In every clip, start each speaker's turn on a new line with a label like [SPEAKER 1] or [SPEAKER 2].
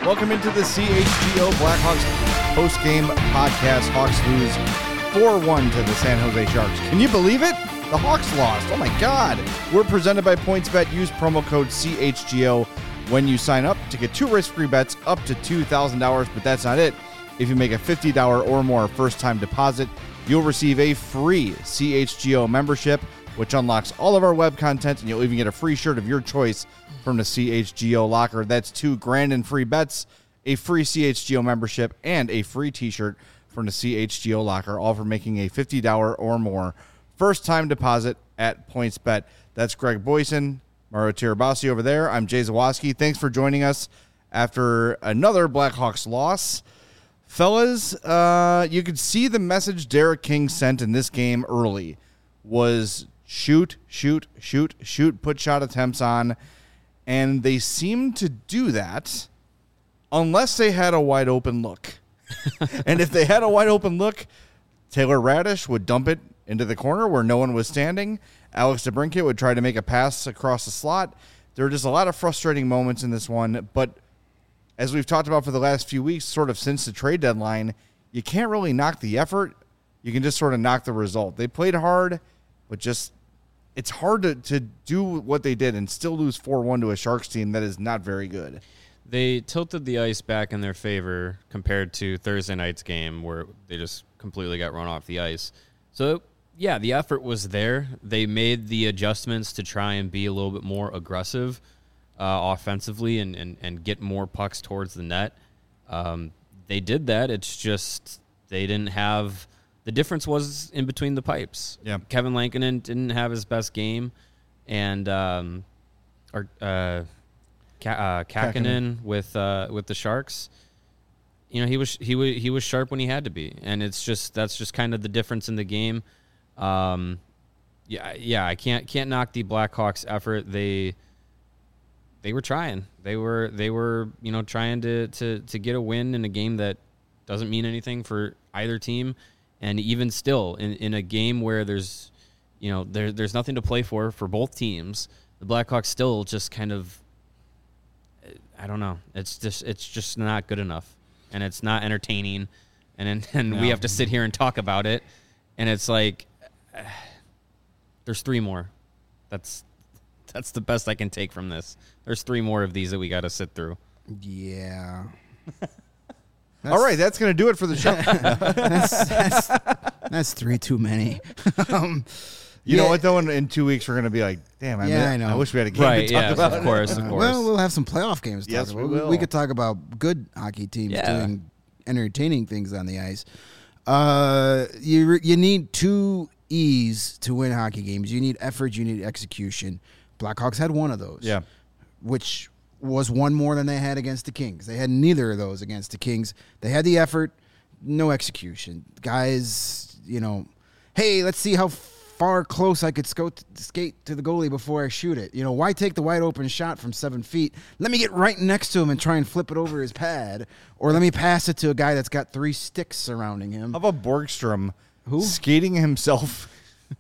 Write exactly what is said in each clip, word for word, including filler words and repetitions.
[SPEAKER 1] Welcome into the C H G O Blackhawks post-game podcast. Hawks lose four one to the San Jose Sharks. Can you believe it? The Hawks lost. Oh, my God. We're presented by PointsBet. Use promo code C H G O when you sign up to get two risk-free bets up to two thousand dollars. But that's not it. If you make a fifty dollars or more first-time deposit, you'll receive a free C H G O membership, which unlocks all of our web content, and you'll even get a free shirt of your choice from the C H G O locker. That's two grand in free bets, a free C H G O membership, and a free t-shirt from the C H G O locker, all for making a fifty dollars or more first-time deposit at PointsBet. That's Greg Boyson, Mario Tirabassi over there. I'm Jay Zawaski. Thanks for joining us after another Blackhawks loss. Fellas, uh, you could see the message Derek King sent in this game early was shoot, shoot, shoot, shoot, put shot attempts on, and they seemed to do that unless they had a wide open look. And if they had a wide open look, Taylor Radish would dump it into the corner where no one was standing. Alex DeBrincat would try to make a pass across the slot. There were just a lot of frustrating moments in this one, but as we've talked about for the last few weeks, sort of since the trade deadline, you can't really knock the effort. You can just sort of knock the result. They played hard, but just it's hard to, to do what they did and still lose four one to a Sharks team that is not very good.
[SPEAKER 2] They tilted the ice back in their favor compared to Thursday night's game where they just completely got run off the ice. So, yeah, the effort was there. They made the adjustments to try and be a little bit more aggressive uh, offensively and, and, and get more pucks towards the net. Um, they did that. It's just they didn't have – the difference was in between the pipes.
[SPEAKER 1] Yeah.
[SPEAKER 2] Kevin Lankinen didn't have his best game, and um, or, uh, Ka- uh, Kakinen with uh, with the Sharks – you know, he was he was he was sharp when he had to be, and it's just that's just kind of the difference in the game. Um, yeah, yeah, I can't can't knock the Blackhawks' effort. They they were trying. They were they were you know trying to to to get a win in a game that doesn't mean anything for either team, and even still in, in a game where there's you know there there's nothing to play for for both teams. The Blackhawks still just kind of I don't know. It's just it's just not good enough. And it's not entertaining, and and no. we have to sit here and talk about it, and it's like, uh, there's three more. That's that's the best I can take from this. There's three more of these that we got to sit through.
[SPEAKER 3] Yeah.
[SPEAKER 1] All right, that's going to do it for the show.
[SPEAKER 3] that's, that's, that's three too many. um,
[SPEAKER 1] You
[SPEAKER 3] yeah.
[SPEAKER 1] know what, though? In, in two weeks, we're going to be like, damn, I,
[SPEAKER 3] yeah,
[SPEAKER 1] mean,
[SPEAKER 3] I, know.
[SPEAKER 1] I wish we had a game
[SPEAKER 2] right,
[SPEAKER 1] to talk
[SPEAKER 2] yes,
[SPEAKER 1] about.
[SPEAKER 2] Of course, of
[SPEAKER 3] uh,
[SPEAKER 2] course.
[SPEAKER 3] Well, we'll have some playoff games to
[SPEAKER 1] yes,
[SPEAKER 3] talk
[SPEAKER 1] we
[SPEAKER 3] about.
[SPEAKER 1] will.
[SPEAKER 3] We could talk about good hockey teams
[SPEAKER 2] yeah.
[SPEAKER 3] doing entertaining things on the ice. Uh, you you need two E's to win hockey games. You need effort, you need execution. Blackhawks had one of those.
[SPEAKER 1] Yeah.
[SPEAKER 3] Which was one more than they had against the Kings. They had neither of those against the Kings. They had the effort, no execution. Guys, you know, hey, let's see how far close I could scout, skate to the goalie before I shoot it. You know, why take the wide open shot from seven feet? Let me get right next to him and try and flip it over his pad. Or let me pass it to a guy that's got three sticks surrounding him.
[SPEAKER 1] How about Borgstrom
[SPEAKER 3] Who?
[SPEAKER 1] skating himself?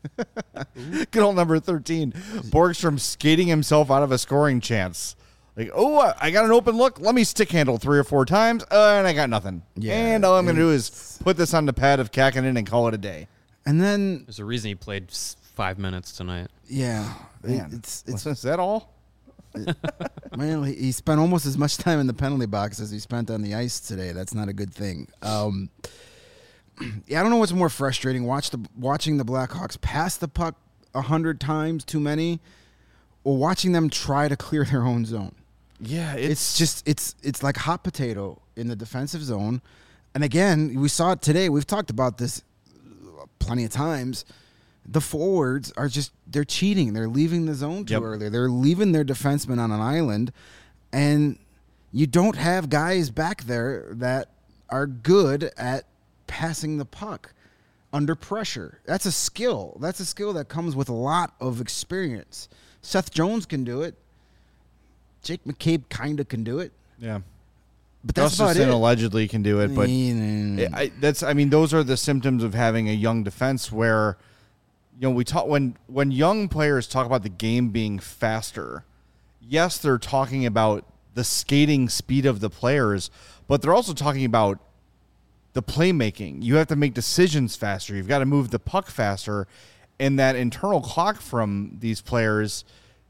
[SPEAKER 1] Good old number thirteen. Borgstrom skating himself out of a scoring chance. Like, oh, I got an open look. Let me stick handle three or four times, uh, and I got nothing.
[SPEAKER 3] Yeah,
[SPEAKER 1] and all I'm going to do is put this on the pad of Kakinen and call it a day.
[SPEAKER 3] And then,
[SPEAKER 2] There's a reason he played five minutes tonight.
[SPEAKER 3] yeah,
[SPEAKER 1] Man,
[SPEAKER 3] it's it's
[SPEAKER 1] is that all?
[SPEAKER 3] well, he, he spent almost as much time in the penalty box as he spent on the ice today. That's not a good thing. Um, yeah, I don't know what's more frustrating: watch the watching the Blackhawks pass the puck a hundred times too many, or watching them try to clear their own zone.
[SPEAKER 1] Yeah,
[SPEAKER 3] It's,
[SPEAKER 1] it's,
[SPEAKER 3] just it's it's like hot potato in the defensive zone. And again, we saw it today. We've talked about this plenty of times. The forwards are just they're cheating. They're leaving the zone too
[SPEAKER 1] Yep.
[SPEAKER 3] early. They're leaving their defensemen on an island, and you don't have guys back there that are good at passing the puck under pressure. That's a skill. That's a skill that comes with a lot of experience. Seth Jones can do it. Jake McCabe kind of can do it.
[SPEAKER 1] yeah.
[SPEAKER 3] But that's
[SPEAKER 1] Gustafson
[SPEAKER 3] about it.
[SPEAKER 1] allegedly can do it, but
[SPEAKER 3] Mm.
[SPEAKER 1] I, that's I mean those are the symptoms of having a young defense where you know we talk when when young players talk about the game being faster. Yes, they're talking about the skating speed of the players, but they're also talking about the playmaking. You have to make decisions faster. You've got to move the puck faster, and that internal clock from these players,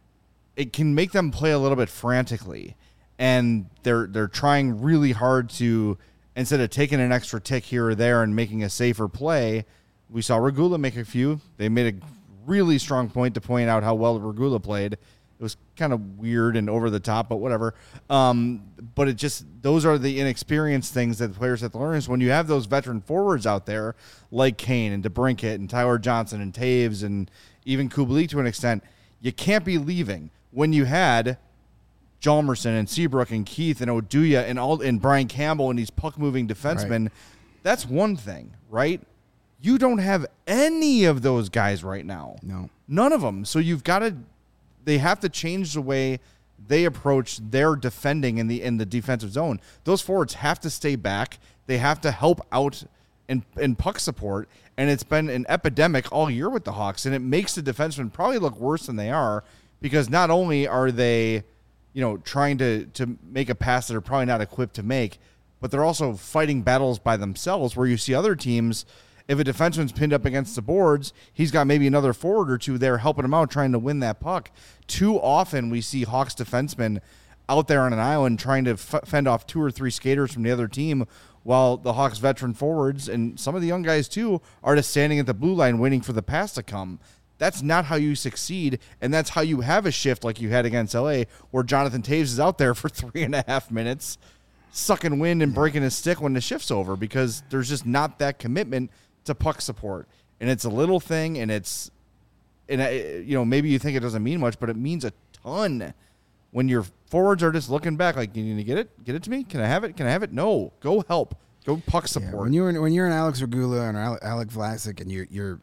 [SPEAKER 1] it can make them play a little bit frantically, and they're they're trying really hard to, instead of taking an extra tick here or there and making a safer play. We saw Regula make a few. They made a really strong point to point out how well Regula played. It was kind of weird and over the top, but whatever. Um, but it just, those are the inexperienced things that the players have to learn. Is when you have those veteran forwards out there like Kane and DeBrincat and Tyler Johnson and Taves and even Kubalik to an extent, you can't be leaving. When you had Hjalmarsson and Seabrook and Keith and Oduya and all and Brian Campbell and these puck-moving defensemen, right. That's one thing, right? You don't have any of those guys right now.
[SPEAKER 3] No.
[SPEAKER 1] None of them. So you've got to, they have to change the way they approach their defending in the in the defensive zone. Those forwards have to stay back. They have to help out in, in puck support. And it's been an epidemic all year with the Hawks, and it makes the defensemen probably look worse than they are, because not only are they, you know, trying to, to make a pass that they're probably not equipped to make, but they're also fighting battles by themselves, where you see other teams, if a defenseman's pinned up against the boards, he's got maybe another forward or two there helping him out, trying to win that puck. Too often we see Hawks defensemen out there on an island trying to f- fend off two or three skaters from the other team, while the Hawks veteran forwards, and some of the young guys too, are just standing at the blue line waiting for the pass to come. That's not how you succeed, and that's how you have a shift like you had against L A, where Jonathan Taves is out there for three and a half minutes, sucking wind and breaking his stick when the shift's over, because there's just not that commitment to puck support. And it's a little thing, and it's, and you know, maybe you think it doesn't mean much, but it means a ton when your forwards are just looking back like, you need to get it, get it to me. Can I have it? Can I have it? No, go help, go puck support.
[SPEAKER 3] Yeah, when you're when you're an Alex Regula and Alec Vlasic, and you're you're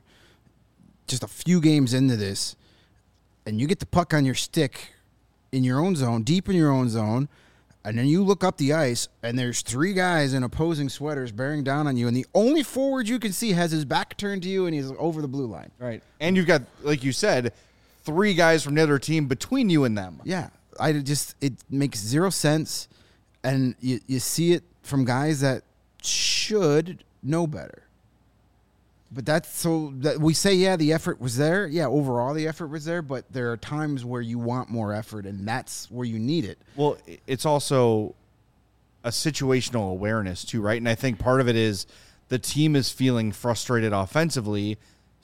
[SPEAKER 3] just a few games into this, and you get the puck on your stick in your own zone, deep in your own zone, and then you look up the ice, and there's three guys in opposing sweaters bearing down on you, and the only forward you can see has his back turned to you, and he's over the blue line.
[SPEAKER 1] Right. And you've got, like you said, three guys from the other team between you and them.
[SPEAKER 3] Yeah. I just, it makes zero sense, and you, you see it from guys that should know better. But that's so that we say, yeah, the effort was there. Yeah, overall the effort was there, but there are times where you want more effort, and that's where you need it.
[SPEAKER 1] Well, it's also a situational awareness too, right? And I think part of it is the team is feeling frustrated offensively,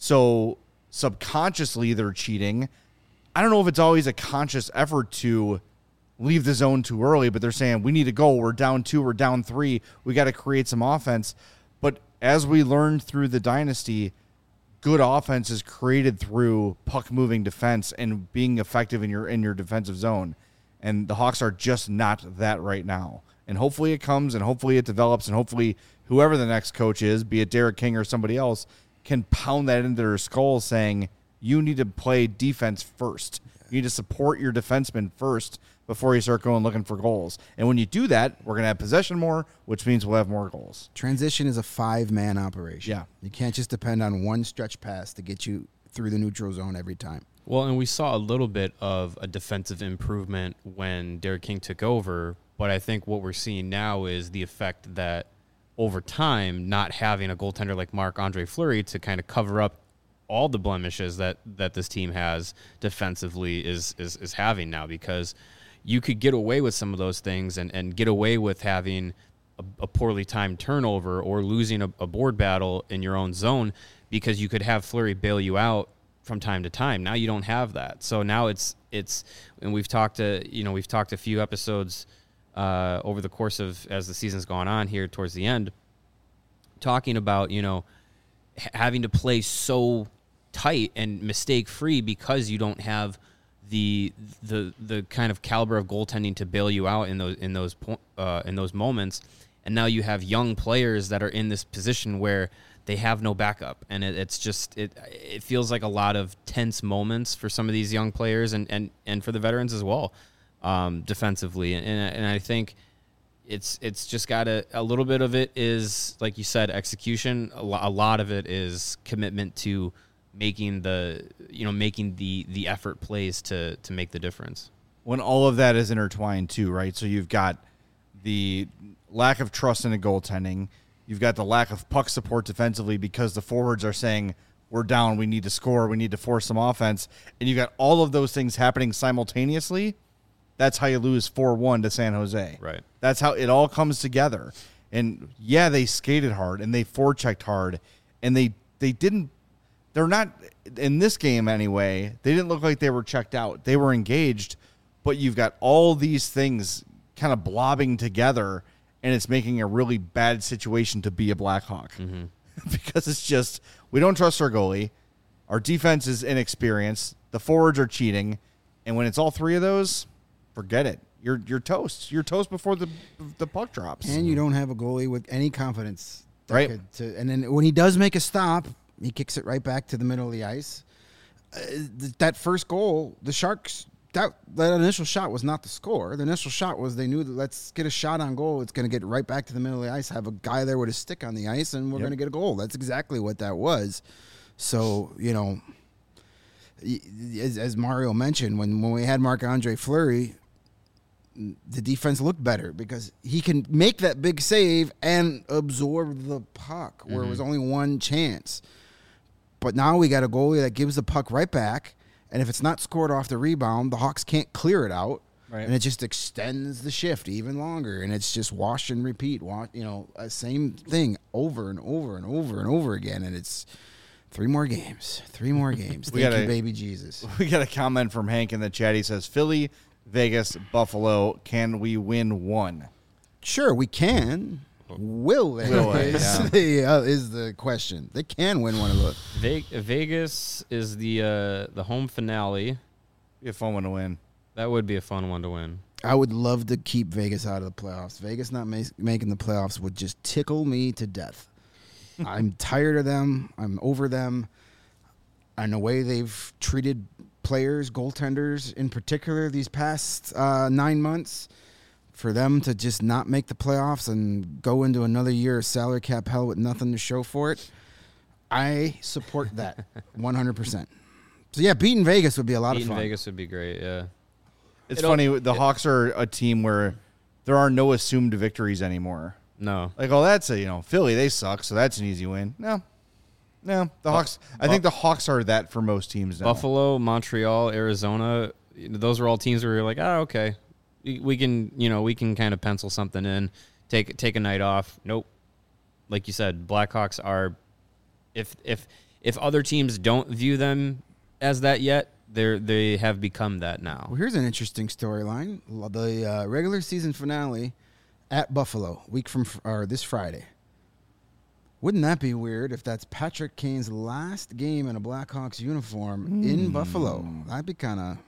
[SPEAKER 1] so subconsciously they're cheating. I don't know if it's always a conscious effort to leave the zone too early, but they're saying, we need to go. We're down two, we're down three. We got to create some offense. But as we learned through the dynasty, good offense is created through puck-moving defense and being effective in your in your defensive zone. And the Hawks are just not that right now. And hopefully it comes, and hopefully it develops, and hopefully whoever the next coach is, be it Derek King or somebody else, can pound that into their skulls saying, you need to play defense first. You need to support your defenseman first before you start going looking for goals. And when you do that, we're going to have possession more, which means we'll have more goals.
[SPEAKER 3] Transition is a five-man operation.
[SPEAKER 1] Yeah.
[SPEAKER 3] You can't just depend on one stretch pass to get you through the neutral zone every time.
[SPEAKER 2] Well, and we saw a little bit of a defensive improvement when Derek King took over, but I think what we're seeing now is the effect that over time, not having a goaltender like Marc-Andre Fleury to kind of cover up all the blemishes that, that this team has defensively is, is is having now, because you could get away with some of those things and, and get away with having a, a poorly timed turnover or losing a, a board battle in your own zone, because you could have Fleury bail you out from time to time. Now you don't have that. So now it's, it's, and we've talked to, you know, we've talked a few episodes uh, over the course of, as the season's gone on here towards the end, talking about, you know, h- having to play so tight and mistake free because you don't have the the the kind of caliber of goaltending to bail you out in those in those uh, in those moments. And now you have young players that are in this position where they have no backup, and it, it's just it it feels like a lot of tense moments for some of these young players and and, and for the veterans as well, um, defensively. And and I think it's it's just got a a little bit of it is, like you said, execution. A, lo- a lot of it is commitment to making the you know making the the effort plays to to make the difference.
[SPEAKER 1] when all of that is intertwined too, right? So you've got the lack of trust in the goaltending. You've got the lack of puck support defensively because the forwards are saying, we're down, we need to score, we need to force some offense. And you got all of those things happening simultaneously. That's how you lose four one to San Jose.
[SPEAKER 2] Right.
[SPEAKER 1] That's how it all comes together. And, yeah, they skated hard, and they forechecked hard, and they they didn't – they're not – in this game anyway, they didn't look like they were checked out. They were engaged, but you've got all these things kind of blobbing together, and it's making a really bad situation to be a Blackhawk. Mm-hmm. Because it's just – we don't trust our goalie. Our defense is inexperienced. The forwards are cheating. And when it's all three of those – forget it. You're you're toast. You're toast before the the puck drops.
[SPEAKER 3] And you don't have a goalie with any confidence. that
[SPEAKER 1] Right.
[SPEAKER 3] could- to, and then when he does make a stop, he kicks it right back to the middle of the ice. Uh, th- that first goal, the Sharks, that, that initial shot was not the score. The initial shot was they knew that let's get a shot on goal. It's going to get right back to the middle of the ice, have a guy there with a stick on the ice, and we're
[SPEAKER 1] Yep.
[SPEAKER 3] going to get a goal. That's exactly what that was. So, you know, y- as, as Mario mentioned, when, when we had Marc-Andre Fleury, the defense looked better because he can make that big save and absorb the puck where it was only one chance. But now we got a goalie that gives the puck right back, and if it's not scored off the rebound, the Hawks can't clear it out,
[SPEAKER 1] Right.
[SPEAKER 3] and it just extends the shift even longer, and it's just wash and repeat, wash, you know, uh, same thing over and over and over and over again, and it's three more games, three more games.
[SPEAKER 1] We
[SPEAKER 3] Thank
[SPEAKER 1] gotta-
[SPEAKER 3] you, baby Jesus.
[SPEAKER 1] We got a comment from Hank in the chat. He says, Philly, Vegas, Buffalo, can we win one?
[SPEAKER 3] Sure, we can. Will they?
[SPEAKER 1] Will they,
[SPEAKER 3] is,
[SPEAKER 1] yeah.
[SPEAKER 3] the, uh, is the question. They can win one of those.
[SPEAKER 2] Ve- Vegas is the uh, the home finale.
[SPEAKER 1] Be a fun one to win.
[SPEAKER 2] That would be a fun one to win.
[SPEAKER 3] I would love to keep Vegas out of the playoffs. Vegas not ma- making the playoffs would just tickle me to death. I'm tired of them. I'm over them. And the way they've treated players, goaltenders in particular, these past uh, nine months, for them to just not make the playoffs and go into another year of salary cap hell with nothing to show for it, I support that one hundred percent. So, yeah, beating Vegas would be a lot
[SPEAKER 2] Beating
[SPEAKER 3] of fun.
[SPEAKER 2] Vegas would be great, yeah.
[SPEAKER 1] It's
[SPEAKER 2] It'll-
[SPEAKER 1] funny. The Hawks are a team where there are no assumed victories anymore.
[SPEAKER 2] No.
[SPEAKER 1] Like, oh, that's a, you know, Philly, they suck, so that's an easy win. No. No. The Hawks, I think the Hawks are that for most teams now.
[SPEAKER 2] Buffalo, Montreal, Arizona, those were all teams where you're like, oh, okay. We, we can, you know, we can kind of pencil something in, take take a night off. Nope. Like you said, Blackhawks are, if if if other teams don't view them as that yet, they're they have become that now.
[SPEAKER 3] Well, here's an interesting storyline. The uh, regular season finale at Buffalo, week from fr- or this Friday. Wouldn't that be weird if that's Patrick Kane's last game in a Blackhawks uniform in Buffalo? That'd be kind of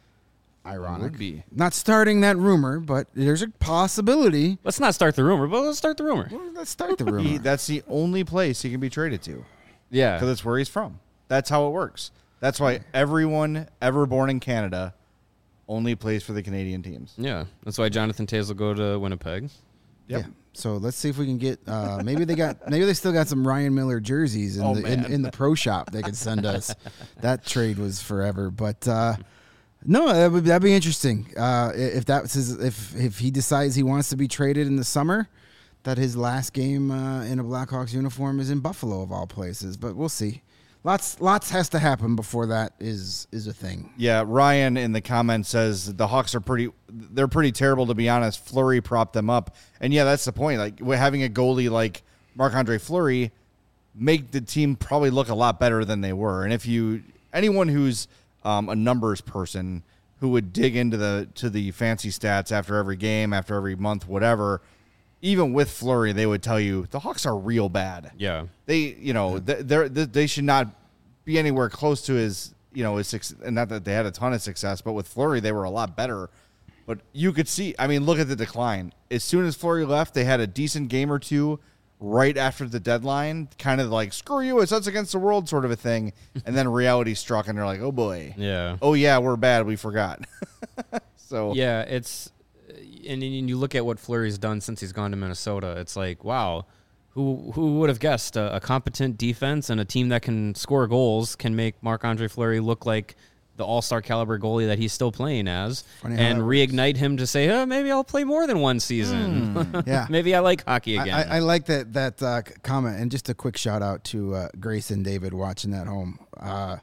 [SPEAKER 3] ironic.
[SPEAKER 1] Would be.
[SPEAKER 3] Not starting that rumor, but there's a possibility.
[SPEAKER 2] Let's not start the rumor, but let's start the rumor.
[SPEAKER 3] Well, let's start the rumor.
[SPEAKER 1] He, that's the only place he can be traded to
[SPEAKER 2] Yeah.
[SPEAKER 1] because it's where he's from. That's how it works. That's why everyone ever born in Canada only plays for the Canadian teams.
[SPEAKER 2] Yeah. That's why Jonathan Tays will go to Winnipeg.
[SPEAKER 1] Yep.
[SPEAKER 3] Yeah. So let's see if we can get. Uh, maybe they got. Maybe they still got some Ryan Miller jerseys in
[SPEAKER 1] Oh,
[SPEAKER 3] the in,
[SPEAKER 1] man.
[SPEAKER 3] in the pro shop. They could send us. That trade was forever, but uh, no, that would that'd be interesting. Uh, if that's his, if if he decides he wants to be traded in the summer, that his last game uh, in a Blackhawks uniform is in Buffalo of all places. But we'll see. Lots lots has to happen before that is is a thing.
[SPEAKER 1] Yeah, Ryan in the comments says the Hawks are pretty. They're pretty terrible, to be honest. Fleury propped them up, and yeah, that's the point. Like we're having a goalie like Marc-Andre Fleury make the team probably look a lot better than they were. And if you anyone who's um, a numbers person who would dig into the to the fancy stats after every game, after every month, whatever, even with Fleury, they would tell you the Hawks are real bad.
[SPEAKER 2] Yeah.
[SPEAKER 1] They, you know, th- they're, th- they should not be anywhere close to his, you know, his success. And not that they had a ton of success, but with Fleury, they were a lot better. But you could see, I mean, look at the decline. As soon as Fleury left, they had a decent game or two right after the deadline, kind of like, screw you, it's us against the world sort of a thing. And then reality struck, and they're like, oh, boy.
[SPEAKER 2] Yeah.
[SPEAKER 1] Oh, yeah, we're bad. We forgot. so,
[SPEAKER 2] Yeah, it's and, and you look at what Fleury's done since he's gone to Minnesota. It's like, wow, who who would have guessed a, a competent defense and a team that can score goals can make Marc-Andre Fleury look like the all-star caliber goalie that he's still playing as
[SPEAKER 3] Funny how
[SPEAKER 2] and
[SPEAKER 3] that
[SPEAKER 2] reignite him to say, oh, maybe I'll play more than one season.
[SPEAKER 3] Mm, yeah.
[SPEAKER 2] Maybe I like hockey again.
[SPEAKER 3] I, I, I like that that uh, comment, and just a quick shout out to uh, Grace and David watching that home. Uh,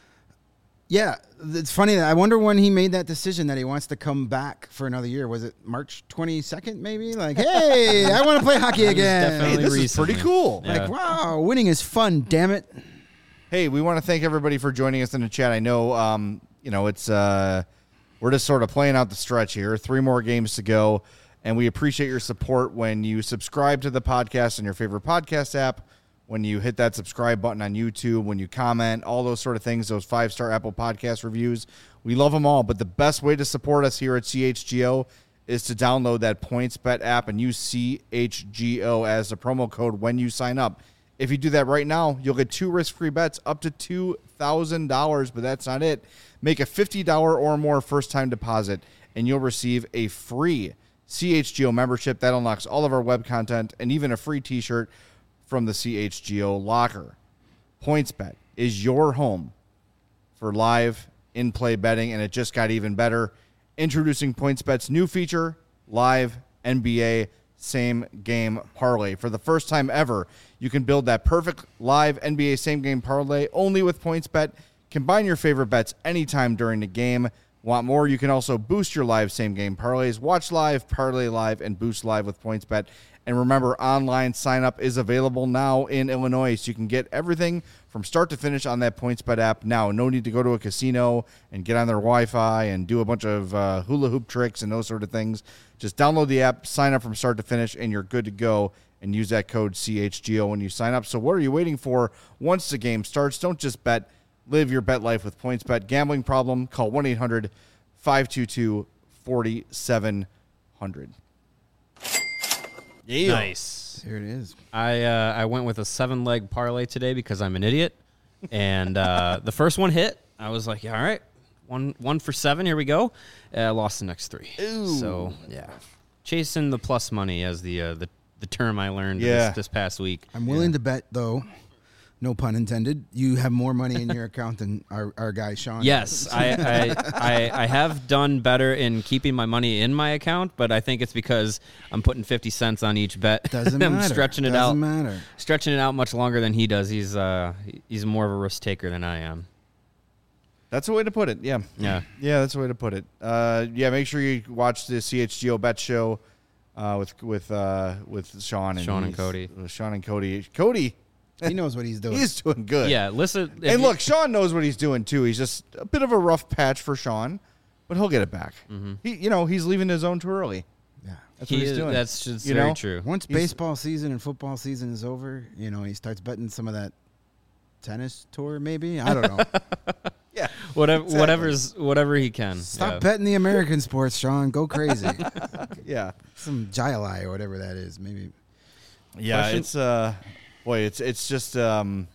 [SPEAKER 3] yeah, it's funny. I wonder when he made that decision that he wants to come back for another year. Was it March twenty-second, maybe? Like, hey, I want to play hockey again.
[SPEAKER 1] Hey, this
[SPEAKER 2] recently.
[SPEAKER 1] is pretty cool.
[SPEAKER 2] Yeah.
[SPEAKER 3] Like, wow, winning is fun, damn it.
[SPEAKER 1] Hey, we want to thank everybody for joining us in the chat. I know, um, you know, it's uh, we're just sort of playing out the stretch here. Three more games to go, and we appreciate your support when you subscribe to the podcast on your favorite podcast app, when you hit that subscribe button on YouTube, when you comment, all those sort of things, those five-star Apple Podcast reviews. We love them all, but the best way to support us here at C H G O is to download that PointsBet app and use C H G O as the promo code when you sign up. If you do that right now, you'll get two risk-free bets up to two thousand dollars, but that's not it. Make a fifty dollars or more first-time deposit, and you'll receive a free C H G O membership. That unlocks all of our web content and even a free T-shirt from the C H G O locker. PointsBet is your home for live in-play betting, and it just got even better. Introducing PointsBet's new feature, Live N B A Same Game Parlay. For the first time ever, you can build that perfect live N B A Same Game Parlay only with PointsBet. Combine your favorite bets anytime during the game. Want more? You can also boost your live Same Game Parlays. Watch live, parlay live, and boost live with PointsBet. And remember, online sign-up is available now in Illinois, so you can get everything from start to finish on that PointsBet app now. No need to go to a casino and get on their Wi-Fi and do a bunch of uh, hula hoop tricks and those sort of things. Just download the app, sign up from start to finish, and you're good to go. And use that code C H G O when you sign up. So what are you waiting for? Once the game starts, don't just bet. Live your bet life with PointsBet. Gambling problem? Call one eight hundred five two two four seven zero zero.
[SPEAKER 2] Yeah. Nice.
[SPEAKER 3] Here it is.
[SPEAKER 2] I uh, I went with a seven leg parlay today because I'm an idiot, and uh, the first one hit. I was like, yeah, all right, one one for seven. Here we go. I uh, lost the next three.
[SPEAKER 1] Ooh.
[SPEAKER 2] So yeah, chasing the plus money as the uh, the the term I learned
[SPEAKER 1] yeah.
[SPEAKER 2] this, this past week.
[SPEAKER 3] I'm willing
[SPEAKER 2] yeah.
[SPEAKER 3] to bet, though, no pun intended, you have more money in your account than our, our guy, Sean.
[SPEAKER 2] Yes, I, I, I I have done better in keeping my money in my account, but I think it's because I'm putting fifty cents on each bet.
[SPEAKER 3] Doesn't
[SPEAKER 2] I'm
[SPEAKER 3] matter.
[SPEAKER 2] stretching it
[SPEAKER 3] Doesn't
[SPEAKER 2] out.
[SPEAKER 3] matter.
[SPEAKER 2] Stretching it out much longer than he does. He's uh he's more of a risk taker than I am.
[SPEAKER 1] That's a way to put it, yeah.
[SPEAKER 2] Yeah.
[SPEAKER 1] Yeah, that's a way to put it. Uh, yeah, make sure you watch the C H G O Bet Show uh, with with uh, with Sean and
[SPEAKER 2] Sean and
[SPEAKER 1] he's-
[SPEAKER 2] Cody.
[SPEAKER 1] with Sean and Cody. Cody,
[SPEAKER 3] He knows what he's doing.
[SPEAKER 1] he's doing good.
[SPEAKER 2] Yeah, listen. if
[SPEAKER 1] And
[SPEAKER 2] you-
[SPEAKER 1] look, Sean knows what he's doing too. He's just a bit of a rough patch for Sean, but he'll get it back.
[SPEAKER 2] Mm-hmm.
[SPEAKER 1] He, you know, he's leaving his zone too early.
[SPEAKER 3] Yeah.
[SPEAKER 1] That's
[SPEAKER 2] he
[SPEAKER 1] what he's
[SPEAKER 2] is-
[SPEAKER 1] doing.
[SPEAKER 2] That's just
[SPEAKER 1] You
[SPEAKER 2] very
[SPEAKER 1] know?
[SPEAKER 2] true.
[SPEAKER 3] Once
[SPEAKER 1] He's-
[SPEAKER 3] baseball season and football season is over, you know, he starts betting some of that tennis tour, maybe. I don't know.
[SPEAKER 1] yeah.
[SPEAKER 2] Whatever,
[SPEAKER 1] Exactly.
[SPEAKER 2] whatever's whatever he can.
[SPEAKER 3] Stop
[SPEAKER 2] yeah.
[SPEAKER 3] betting the American sports, Sean. Go crazy.
[SPEAKER 1] Yeah.
[SPEAKER 3] Some Jai or whatever that is, maybe.
[SPEAKER 1] Yeah,
[SPEAKER 2] Question-
[SPEAKER 1] it's uh boy, it's it's just um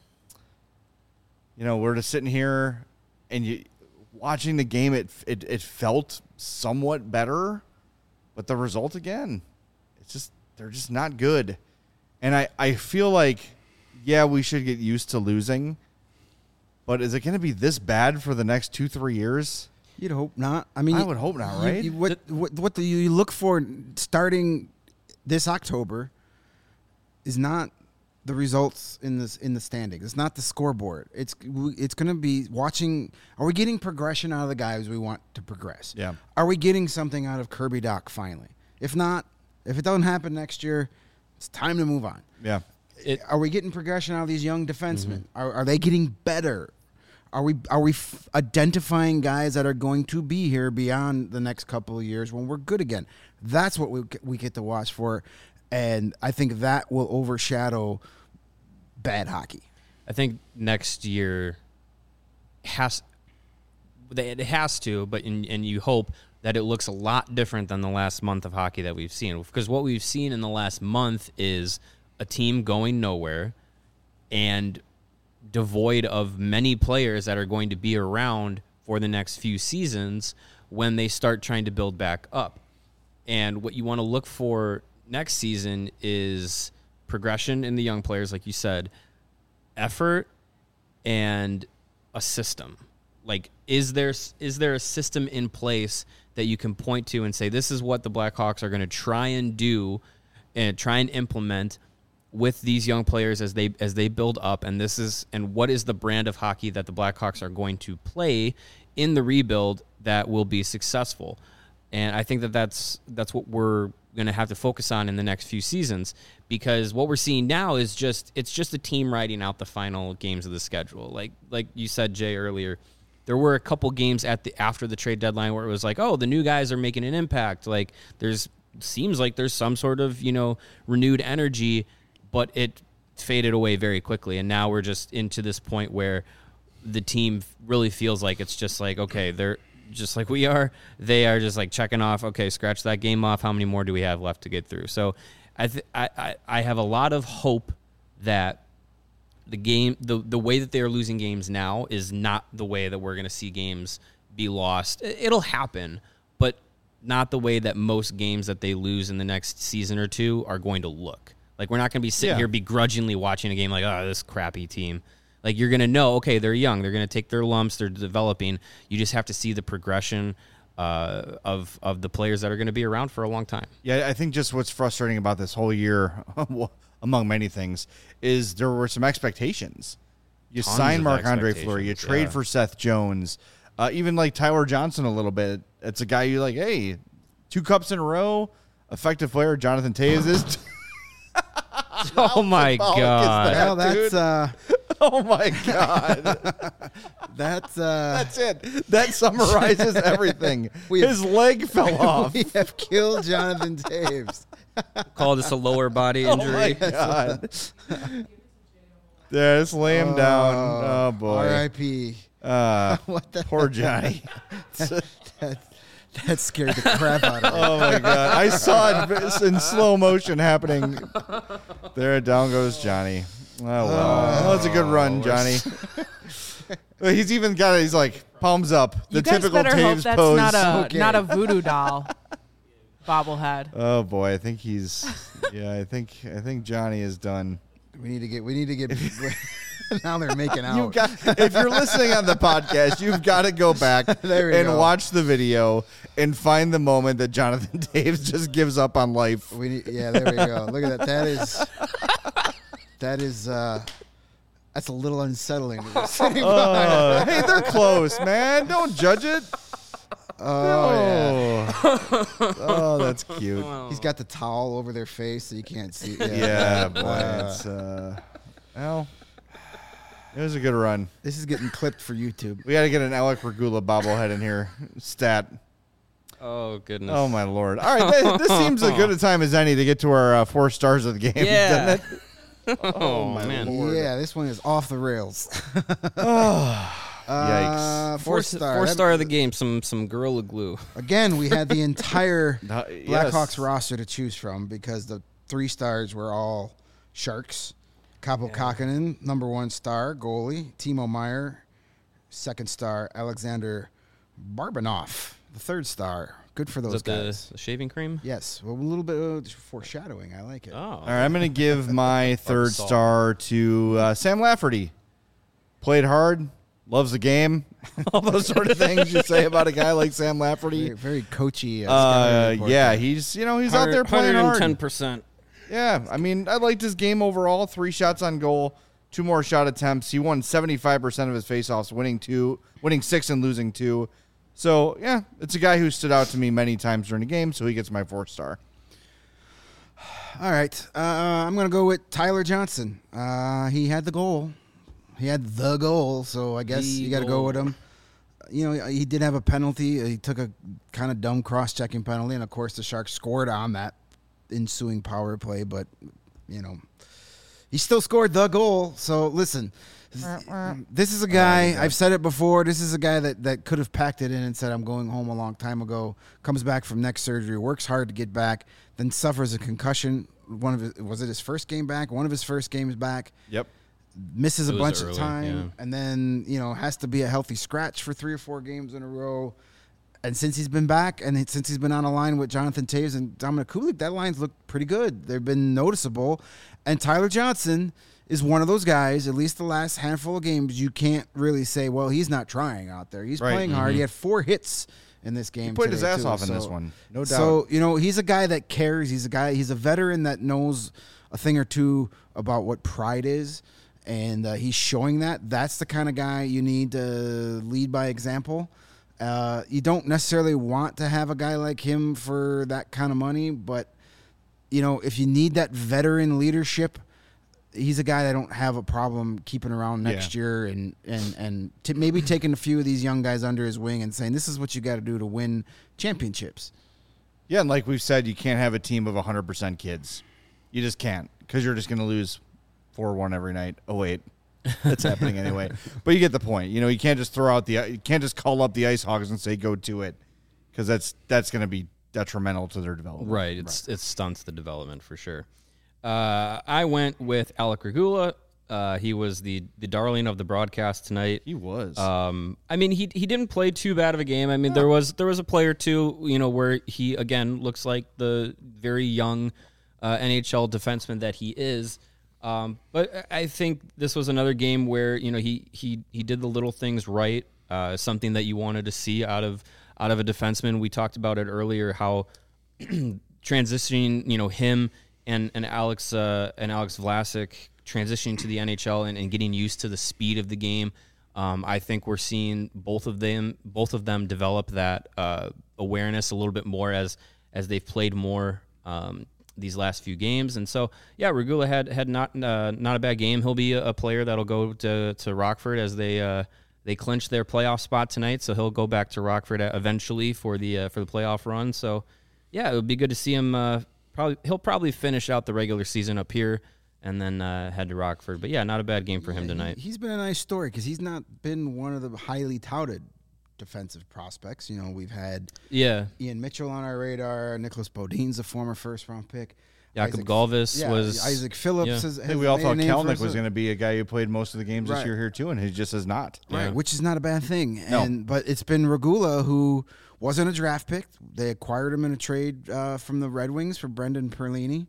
[SPEAKER 1] you know, we're just sitting here and you watching the game it it it felt somewhat better, but the result again, it's just they're just not good. And I I feel like yeah, we should get used to losing, but is it going to be this bad for the next two three years?
[SPEAKER 3] You'd hope not. I mean,
[SPEAKER 1] I would hope not,
[SPEAKER 3] you-
[SPEAKER 1] right?
[SPEAKER 3] you- what what what do you look for starting this October is not the results in this in the standings. It's not the scoreboard. It's it's going to be watching. Are we getting progression out of the guys we want to progress?
[SPEAKER 1] Yeah.
[SPEAKER 3] Are we getting something out of Kirby Doc finally? If not, if it doesn't happen next year, it's time to move on.
[SPEAKER 1] Yeah.
[SPEAKER 2] It-
[SPEAKER 3] Are we getting progression out of these young defensemen? Are, are they getting better? Are we are we f- identifying guys that are going to be here beyond the next couple of years when we're good again? That's what we we get to watch for, and I think that will overshadow bad hockey.
[SPEAKER 2] I think next year has it has to, but in, and you hope that it looks a lot different than the last month of hockey that we've seen. Because what we've seen in the last month is a team going nowhere and devoid of many players that are going to be around for the next few seasons when they start trying to build back up. And what you want to look for next season is progression in the young players, like you said, effort, and a system. Like, is there is there a system in place that you can point to and say, this is what the Blackhawks are going to try and do and try and implement with these young players as they as they build up, and this is and what is the brand of hockey that the Blackhawks are going to play in the rebuild that will be successful? And I think that that's that's what we're going to have to focus on in the next few seasons, because what we're seeing now is just it's just a team riding out the final games of the schedule. Like like you said, Jay, earlier, there were a couple games at the after the trade deadline where it was like, oh, the new guys are making an impact. Like there's seems like there's some sort of, you know, renewed energy, but it faded away very quickly. And now we're just into this point where the team really feels like it's just like, okay, they're just like we are. They are just like checking off, okay, scratch that game off. How many more do we have left to get through? So I th- I, I, I have a lot of hope that the game, the, the way that they are losing games now is not the way that we're going to see games be lost. It'll happen, but not the way that most games that they lose in the next season or two are going to look. Like, we're not going to be sitting
[SPEAKER 1] Yeah.
[SPEAKER 2] here begrudgingly watching a game like, oh, this crappy team. Like, you're going to know, okay, they're young. They're going to take their lumps. They're developing. You just have to see the progression uh, of of the players that are going to be around for a long time.
[SPEAKER 1] Yeah, I think just what's frustrating about this whole year, among many things, is there were some expectations. You
[SPEAKER 2] Tons
[SPEAKER 1] sign
[SPEAKER 2] of
[SPEAKER 1] Marc-Andre Fleury. You trade
[SPEAKER 2] yeah.
[SPEAKER 1] for Seth Jones. Uh, even like Tyler Johnson a little bit. It's a guy you like, hey, two cups in a row, effective player, Jonathan Toews is.
[SPEAKER 2] Oh, my
[SPEAKER 1] symbolic is
[SPEAKER 2] God.
[SPEAKER 1] that,
[SPEAKER 3] Well, that's
[SPEAKER 1] dude?
[SPEAKER 3] uh,
[SPEAKER 1] Oh, my God.
[SPEAKER 3] that's uh,
[SPEAKER 1] That's it. That summarizes everything.
[SPEAKER 3] We-
[SPEAKER 1] His leg fell off.
[SPEAKER 3] we have killed Jonathan Toews.
[SPEAKER 2] Call this a lower body
[SPEAKER 1] Oh, my
[SPEAKER 2] injury.
[SPEAKER 1] God. Yeah, just lay him down. Oh, boy.
[SPEAKER 3] R I P
[SPEAKER 1] Uh,
[SPEAKER 3] What the
[SPEAKER 1] poor Johnny.
[SPEAKER 3] That, that scared the crap out of me.
[SPEAKER 1] Oh, my God. I saw it in slow motion happening. There, down goes Johnny. Oh, well. that was a good run, Johnny. He's even got it. He's like, palms up. The
[SPEAKER 4] You guys
[SPEAKER 1] typical
[SPEAKER 4] better hope
[SPEAKER 1] Taves
[SPEAKER 4] that's
[SPEAKER 1] pose.
[SPEAKER 4] not a
[SPEAKER 3] Okay.
[SPEAKER 4] not a voodoo doll bobblehead.
[SPEAKER 1] Oh, boy. I think he's, yeah, I think, I think Johnny is done.
[SPEAKER 3] We need to get. We need to get. Now they're making out.
[SPEAKER 1] You got, if you're listening on the podcast, you've got to go back
[SPEAKER 3] There we
[SPEAKER 1] and
[SPEAKER 3] go.
[SPEAKER 1] watch the video and find the moment that Jonathan Toews just gives up on life.
[SPEAKER 3] We need, yeah, there we go. Look at that. That is. That is. uh That's a little unsettling.
[SPEAKER 1] Uh, hey, they're close, man. Don't judge it.
[SPEAKER 3] Oh, yeah.
[SPEAKER 1] Oh, oh that's cute.
[SPEAKER 3] He's got the towel over their face so you can't see. Yeah,
[SPEAKER 1] Yeah, boy.
[SPEAKER 3] Uh,
[SPEAKER 1] It's, uh, well, it was a good run.
[SPEAKER 3] This is getting clipped for YouTube.
[SPEAKER 1] We got to get an Alec Regula bobblehead in here. Stat.
[SPEAKER 2] Oh, goodness.
[SPEAKER 1] Oh, my Lord. All right, this, this seems as good a time as any to get to our uh, four stars of the game,
[SPEAKER 2] Yeah.
[SPEAKER 1] doesn't it?
[SPEAKER 2] Oh,
[SPEAKER 1] my
[SPEAKER 2] man.
[SPEAKER 1] Lord.
[SPEAKER 3] Yeah, this one is off the rails.
[SPEAKER 1] Oh,
[SPEAKER 3] Uh, four
[SPEAKER 2] Four,
[SPEAKER 3] star.
[SPEAKER 2] four
[SPEAKER 3] That-
[SPEAKER 2] star of the game, some some Gorilla Glue.
[SPEAKER 3] Again, we had the entire
[SPEAKER 1] No,
[SPEAKER 3] Blackhawks
[SPEAKER 1] yes.
[SPEAKER 3] roster to choose from because the three stars were all Sharks. Kaapo Kakkonen, number one star, goalie. Timo Meyer, second star. Alexander Barbanoff, the third star. Good for
[SPEAKER 2] Is
[SPEAKER 3] those
[SPEAKER 2] that the,
[SPEAKER 3] guys.
[SPEAKER 2] the shaving cream?
[SPEAKER 3] Yes, well, a little bit of foreshadowing. I like it.
[SPEAKER 2] Oh.
[SPEAKER 1] All right, I'm going to give my third
[SPEAKER 2] salt.
[SPEAKER 1] star to uh, Sam Lafferty. Played hard, loves the game, all those sort of things you say about a guy like Sam Lafferty.
[SPEAKER 3] Very, very coachy. Uh,
[SPEAKER 1] Uh,
[SPEAKER 3] scouting report
[SPEAKER 1] yeah,
[SPEAKER 3] there.
[SPEAKER 1] he's you know he's out there playing
[SPEAKER 2] one hundred ten
[SPEAKER 1] hard.
[SPEAKER 2] percent.
[SPEAKER 1] Yeah, I mean I liked his game overall. Three shots on goal, two more shot attempts. He won seventy-five percent of his faceoffs, winning two, winning six and losing two. So yeah, it's a guy who stood out to me many times during the game. So he gets my fourth star.
[SPEAKER 3] All right. Uh, I'm going to go with Tyler Johnson. Uh, he had the goal. He had the goal, so I guess
[SPEAKER 2] The
[SPEAKER 3] you got to go
[SPEAKER 2] goal.
[SPEAKER 3] with him. You know, he did have a penalty. He took a kind of dumb cross-checking penalty, and of course the Sharks scored on that ensuing power play, but, you know, he still scored the goal. So, listen, this is a guy, I've said it before, this is a guy that, that could have packed it in and said, I'm going home a long time ago, comes back from neck surgery, works hard to get back, then suffers a concussion. One of his, was it his first game back? One of his first games back.
[SPEAKER 1] Yep.
[SPEAKER 3] Misses a
[SPEAKER 2] It was
[SPEAKER 3] bunch
[SPEAKER 2] early,
[SPEAKER 3] of time,
[SPEAKER 2] yeah.
[SPEAKER 3] and then, you know, has to be a healthy scratch for three or four games in a row. And since he's been back, and it- since he's been on a line with Jonathan Toews and Dominic Kulik, that line's looked pretty good. They've been noticeable. And Tyler Johnson is one of those guys, at least the last handful of games, you can't really say, well, he's not trying out there. He's
[SPEAKER 1] Right.
[SPEAKER 3] playing hard. He had four hits in this game.
[SPEAKER 1] He played his
[SPEAKER 3] today,
[SPEAKER 1] ass
[SPEAKER 3] too.
[SPEAKER 1] off in
[SPEAKER 3] So-
[SPEAKER 1] this one. No doubt.
[SPEAKER 3] So, you know, he's a guy that cares. He's a guy, he's a veteran that knows a thing or two about what pride is. And uh, he's showing that. That's the kind of guy you need to lead by example. Uh, you don't necessarily want to have a guy like him for that kind of money, but, you know, if you need that veteran leadership, he's a guy that I don't have a problem keeping around next
[SPEAKER 1] Yeah.
[SPEAKER 3] year and and and t- maybe taking a few of these young guys under his wing and saying, this is what you got to do to win championships.
[SPEAKER 1] Yeah, and like we've said, you can't have a team of one hundred percent kids. You just can't, because you're just going to lose four one every night. Oh, wait. That's happening anyway. But you get the point. You know, you can't just throw out the – you can't just call up the Ice Hogs and say go to it, because that's that's going to be detrimental to their development.
[SPEAKER 2] Right. It's it stunts the development for sure. Uh, I went with Alec Regula. Uh, he was the the darling of the broadcast tonight.
[SPEAKER 1] He was.
[SPEAKER 2] Um, I mean, he he didn't play too bad of a game. I mean, there was there was a play or two, you know, where he again looks like the very young uh, N H L defenseman that he is. Um, but I think this was another game where, you know, he he he did the little things right. Uh, something that you wanted to see out of out of a defenseman. We talked about it earlier, how transitioning, you know, him and and Alex uh, and Alex Vlasic transitioning to the N H L and, and getting used to the speed of the game. Um, I think we're seeing both of them both of them develop that uh, awareness a little bit more as as they've played more um, these last few games. And so, yeah, Regula had had not uh, not a bad game. He'll be a, a player that'll go to to Rockford as they uh, they clinch their playoff spot tonight. So he'll go back to Rockford eventually for the uh, for the playoff run. So, yeah, it would be good to see him. Uh, probably he'll probably finish out the regular season up here and then uh, head to Rockford. But yeah, not a bad game for him
[SPEAKER 3] Yeah,
[SPEAKER 2] tonight.
[SPEAKER 3] He, he's been a nice story because he's not been one of the highly touted defensive prospects. You know, we've had
[SPEAKER 2] Yeah,
[SPEAKER 3] Ian Mitchell on our radar. Nicholas Bodin's a former first round pick.
[SPEAKER 2] Jakob
[SPEAKER 3] Isaac-
[SPEAKER 2] Galvis
[SPEAKER 3] yeah,
[SPEAKER 2] was
[SPEAKER 3] Isaac Phillips.
[SPEAKER 2] yeah.
[SPEAKER 3] Has,
[SPEAKER 1] I
[SPEAKER 3] has
[SPEAKER 1] think we all
[SPEAKER 3] made
[SPEAKER 1] thought
[SPEAKER 3] a name for
[SPEAKER 1] Kalnick
[SPEAKER 3] us.
[SPEAKER 1] was going to be a guy who played most of the games this
[SPEAKER 3] Right.
[SPEAKER 1] year here too, and he just has not.
[SPEAKER 3] Right,
[SPEAKER 2] Yeah.
[SPEAKER 3] which is not a bad thing.
[SPEAKER 1] No.
[SPEAKER 3] And but it's been Regula who wasn't a draft pick. They acquired him in a trade uh, from the Red Wings for Brendan Perlini.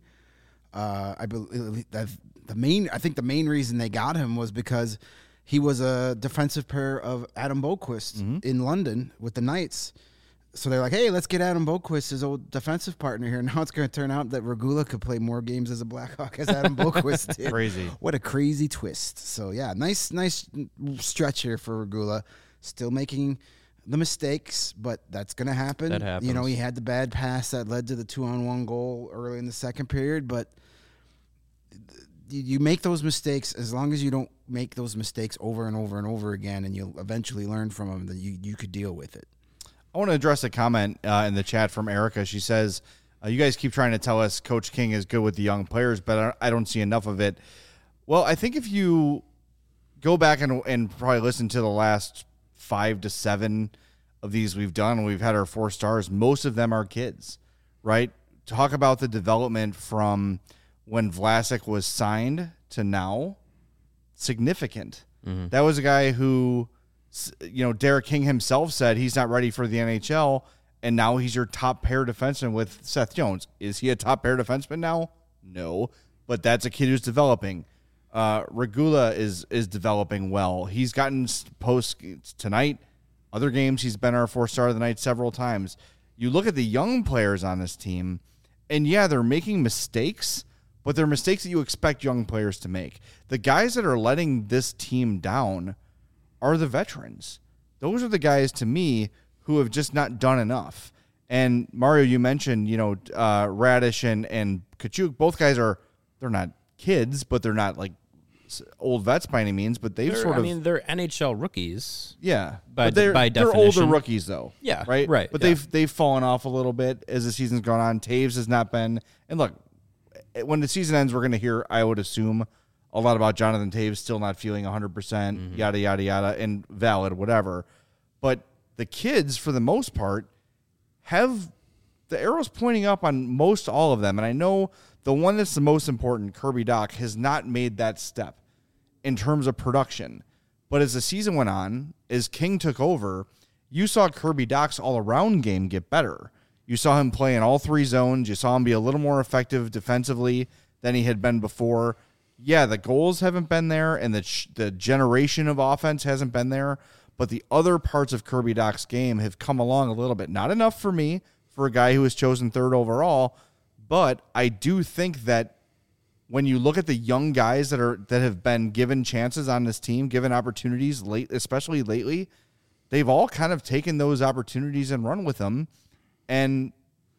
[SPEAKER 3] Uh, I believe that the main. I think the main reason they got him was because he was a defensive pair of Adam Boquist
[SPEAKER 1] Mm-hmm.
[SPEAKER 3] in London with the Knights. So they're like, hey, let's get Adam Boquist, his old defensive partner here. Now it's going to turn out that Regula could play more games as a Blackhawk as Adam Boquist did.
[SPEAKER 1] Crazy.
[SPEAKER 3] What a crazy twist. So, yeah, nice nice stretch here for Regula. Still making the mistakes, but that's going to happen.
[SPEAKER 2] That happens.
[SPEAKER 3] You know, he had the bad pass that led to the two-on-one goal early in the second period, but you you make those mistakes as long as you don't make those mistakes over and over and over again, and you'll eventually learn from them that you, you could deal with it.
[SPEAKER 1] I want to address a comment uh, in the chat from Erica. She says, uh, you guys keep trying to tell us Coach King is good with the young players, but I I don't see enough of it. Well, I think if you go back and, and probably listen to the last five to seven of these we've done, we've had our four stars, most of them are kids, right? Talk about the development from when Vlasic was signed to now. Significant.
[SPEAKER 2] Mm-hmm.
[SPEAKER 1] That was a guy who, you know, Derek King himself said he's not ready for the N H L, and now he's your top pair defenseman with Seth Jones. Is he a top pair defenseman now? No, but that's a kid who's developing. Uh, Regula is is developing well. He's gotten post tonight. Other games, he's been our four-star of the night several times. You look at the young players on this team, and yeah, they're making mistakes, but they're mistakes that you expect young players to make. The guys that are letting this team down are the veterans. Those are the guys, to me, who have just not done enough. And Mario, you mentioned, you know, uh, Radish and, and Kachuk. Both guys are, they're not kids, but they're not like old vets by any means, but they've
[SPEAKER 2] They're-
[SPEAKER 1] sort
[SPEAKER 2] I
[SPEAKER 1] of,
[SPEAKER 2] mean, they're N H L rookies.
[SPEAKER 1] yeah,
[SPEAKER 2] by
[SPEAKER 1] but they're,
[SPEAKER 2] by
[SPEAKER 1] they're
[SPEAKER 2] definition.
[SPEAKER 1] older rookies though.
[SPEAKER 2] Yeah,
[SPEAKER 1] right,
[SPEAKER 2] right,
[SPEAKER 1] But
[SPEAKER 2] yeah.
[SPEAKER 1] they've they've fallen off a little bit as the season's gone on. Taves has not been, and look, when the season ends, we're going to hear, I would assume, a lot about Jonathan Taves still not feeling one hundred percent,
[SPEAKER 2] Mm-hmm.
[SPEAKER 1] yada yada yada, and valid, whatever. But the kids, for the most part, have the arrows pointing up on most all of them, and I know the one that's the most important, Kirby Dach, has not made that step in terms of production. But as the season went on, as King took over, you saw Kirby Dach's all-around game get better. You saw him play in all three zones. You saw him be a little more effective defensively than he had been before. yeah, the goals haven't been there, and the ch- the generation of offense hasn't been there, but the other parts of Kirby Dach's game have come along a little bit. Not enough for me, for a guy who was chosen third overall, but I do think that when you look at the young guys that are that have been given chances on this team, given opportunities late, especially lately, they've all kind of taken those opportunities and run with them. And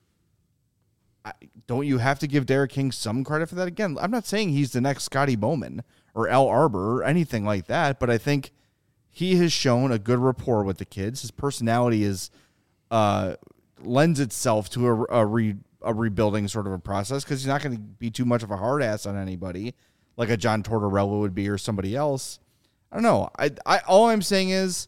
[SPEAKER 1] I, don't you have to give Derek King some credit for that? Again, I'm not saying he's the next Scotty Bowman or Al Arbor or anything like that, but I think he has shown a good rapport with the kids. His personality is uh, lends itself to a, a, re, a rebuilding sort of a process because he's not going to be too much of a hard ass on anybody like a John Tortorella would be or somebody else. I don't know. I, I all I'm saying is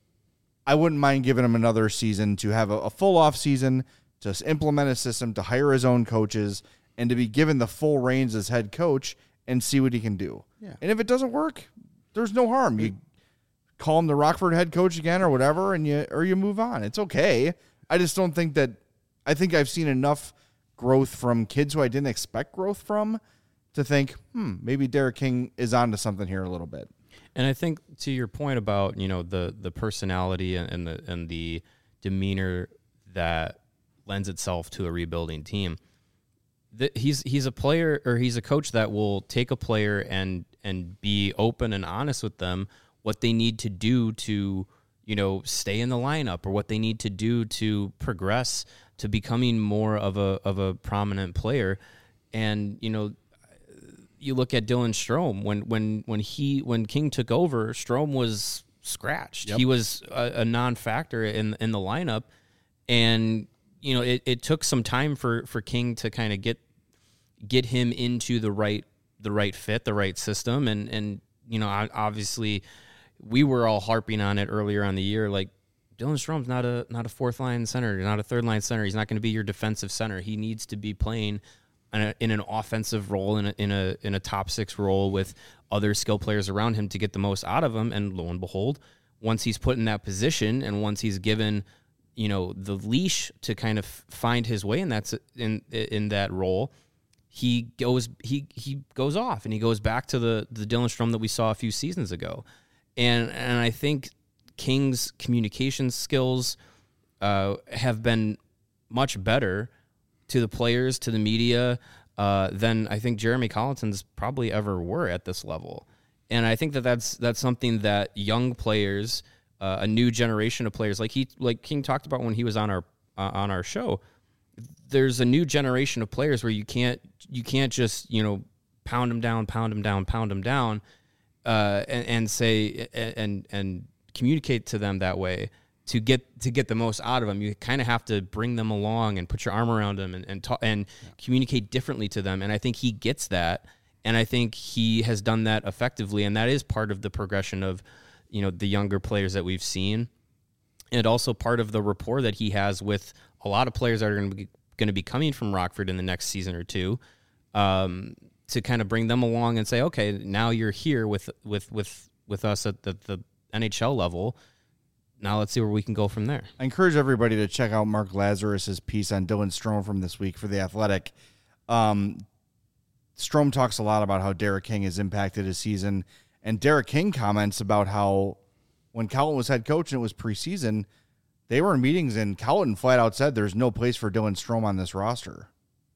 [SPEAKER 1] I wouldn't mind giving him another season to have a, a full off season, to implement a system, to hire his own coaches, and to be given the full reins as head coach and see what he can do.
[SPEAKER 3] Yeah.
[SPEAKER 1] And if it doesn't work, there's no harm. You call him the Rockford head coach again or whatever, and you or you move on. It's okay. I just don't think that – I think I've seen enough growth from kids who I didn't expect growth from to think, hmm, maybe Derek King is onto something here a little bit.
[SPEAKER 2] And I think to your point about, you know, the the personality and, and the and the demeanor that lends itself to a rebuilding team, that he's he's a player or he's a coach that will take a player and and be open and honest with them what they need to do to, you know, stay in the lineup or what they need to do to progress to becoming more of a of a prominent player. And, you know, you look at Dylan Strome when when when he when King took over, Strome was scratched. Yep. He was a, a non-factor in in the lineup, and you know it, it took some time for, for King to kind of get get him into the right the right fit, the right system, and and you know obviously we were all harping on it earlier on the year, like Dylan Strome's not a not a fourth line center, not a third line center. He's not going to be your defensive center. He needs to be playing In, a, in an offensive role, in a, in a in a top six role with other skill players around him to get the most out of him. And lo and behold, once he's put in that position and once he's given, you know, the leash to kind of find his way in that in in that role, he goes he he goes off and he goes back to the the Dylan Strome that we saw a few seasons ago. And and I think King's communication skills uh, have been much better to the players, to the media, uh, than I think Jeremy Colliton's probably ever were at this level. And I think that that's that's something that young players, uh, a new generation of players, like he like King talked about when he was on our uh, on our show. There's a new generation of players where you can't you can't just you know pound them down, pound them down, pound them down, uh, and, and say and and communicate to them that way. To get to get the most out of them, you kind of have to bring them along and put your arm around them and and, talk, and yeah. communicate differently to them. And I think he gets that, and I think he has done that effectively. And that is part of the progression of, you know, the younger players that we've seen, and also part of the rapport that he has with a lot of players that are going to be going to be coming from Rockford in the next season or two, um, to kind of bring them along and say, okay, now you're here with with with with us at the, the N H L level. Now let's see where we can go from there.
[SPEAKER 1] I encourage everybody to check out Mark Lazarus's piece on Dylan Strome from this week for The Athletic. Um, Strome talks a lot about how Derek King has impacted his season, and Derek King comments about how when Colliton was head coach and it was preseason, they were in meetings and Colliton flat out said there's no place for Dylan Strome on this roster.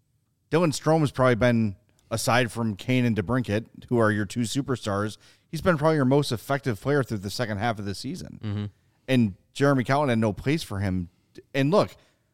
[SPEAKER 1] Dylan Strome has probably been, aside from Kane and DeBrincat, who are your two superstars, he's been probably your most effective player through the second half of the season. Mm-hmm. And Jeremy Colliton had no place for him. And look,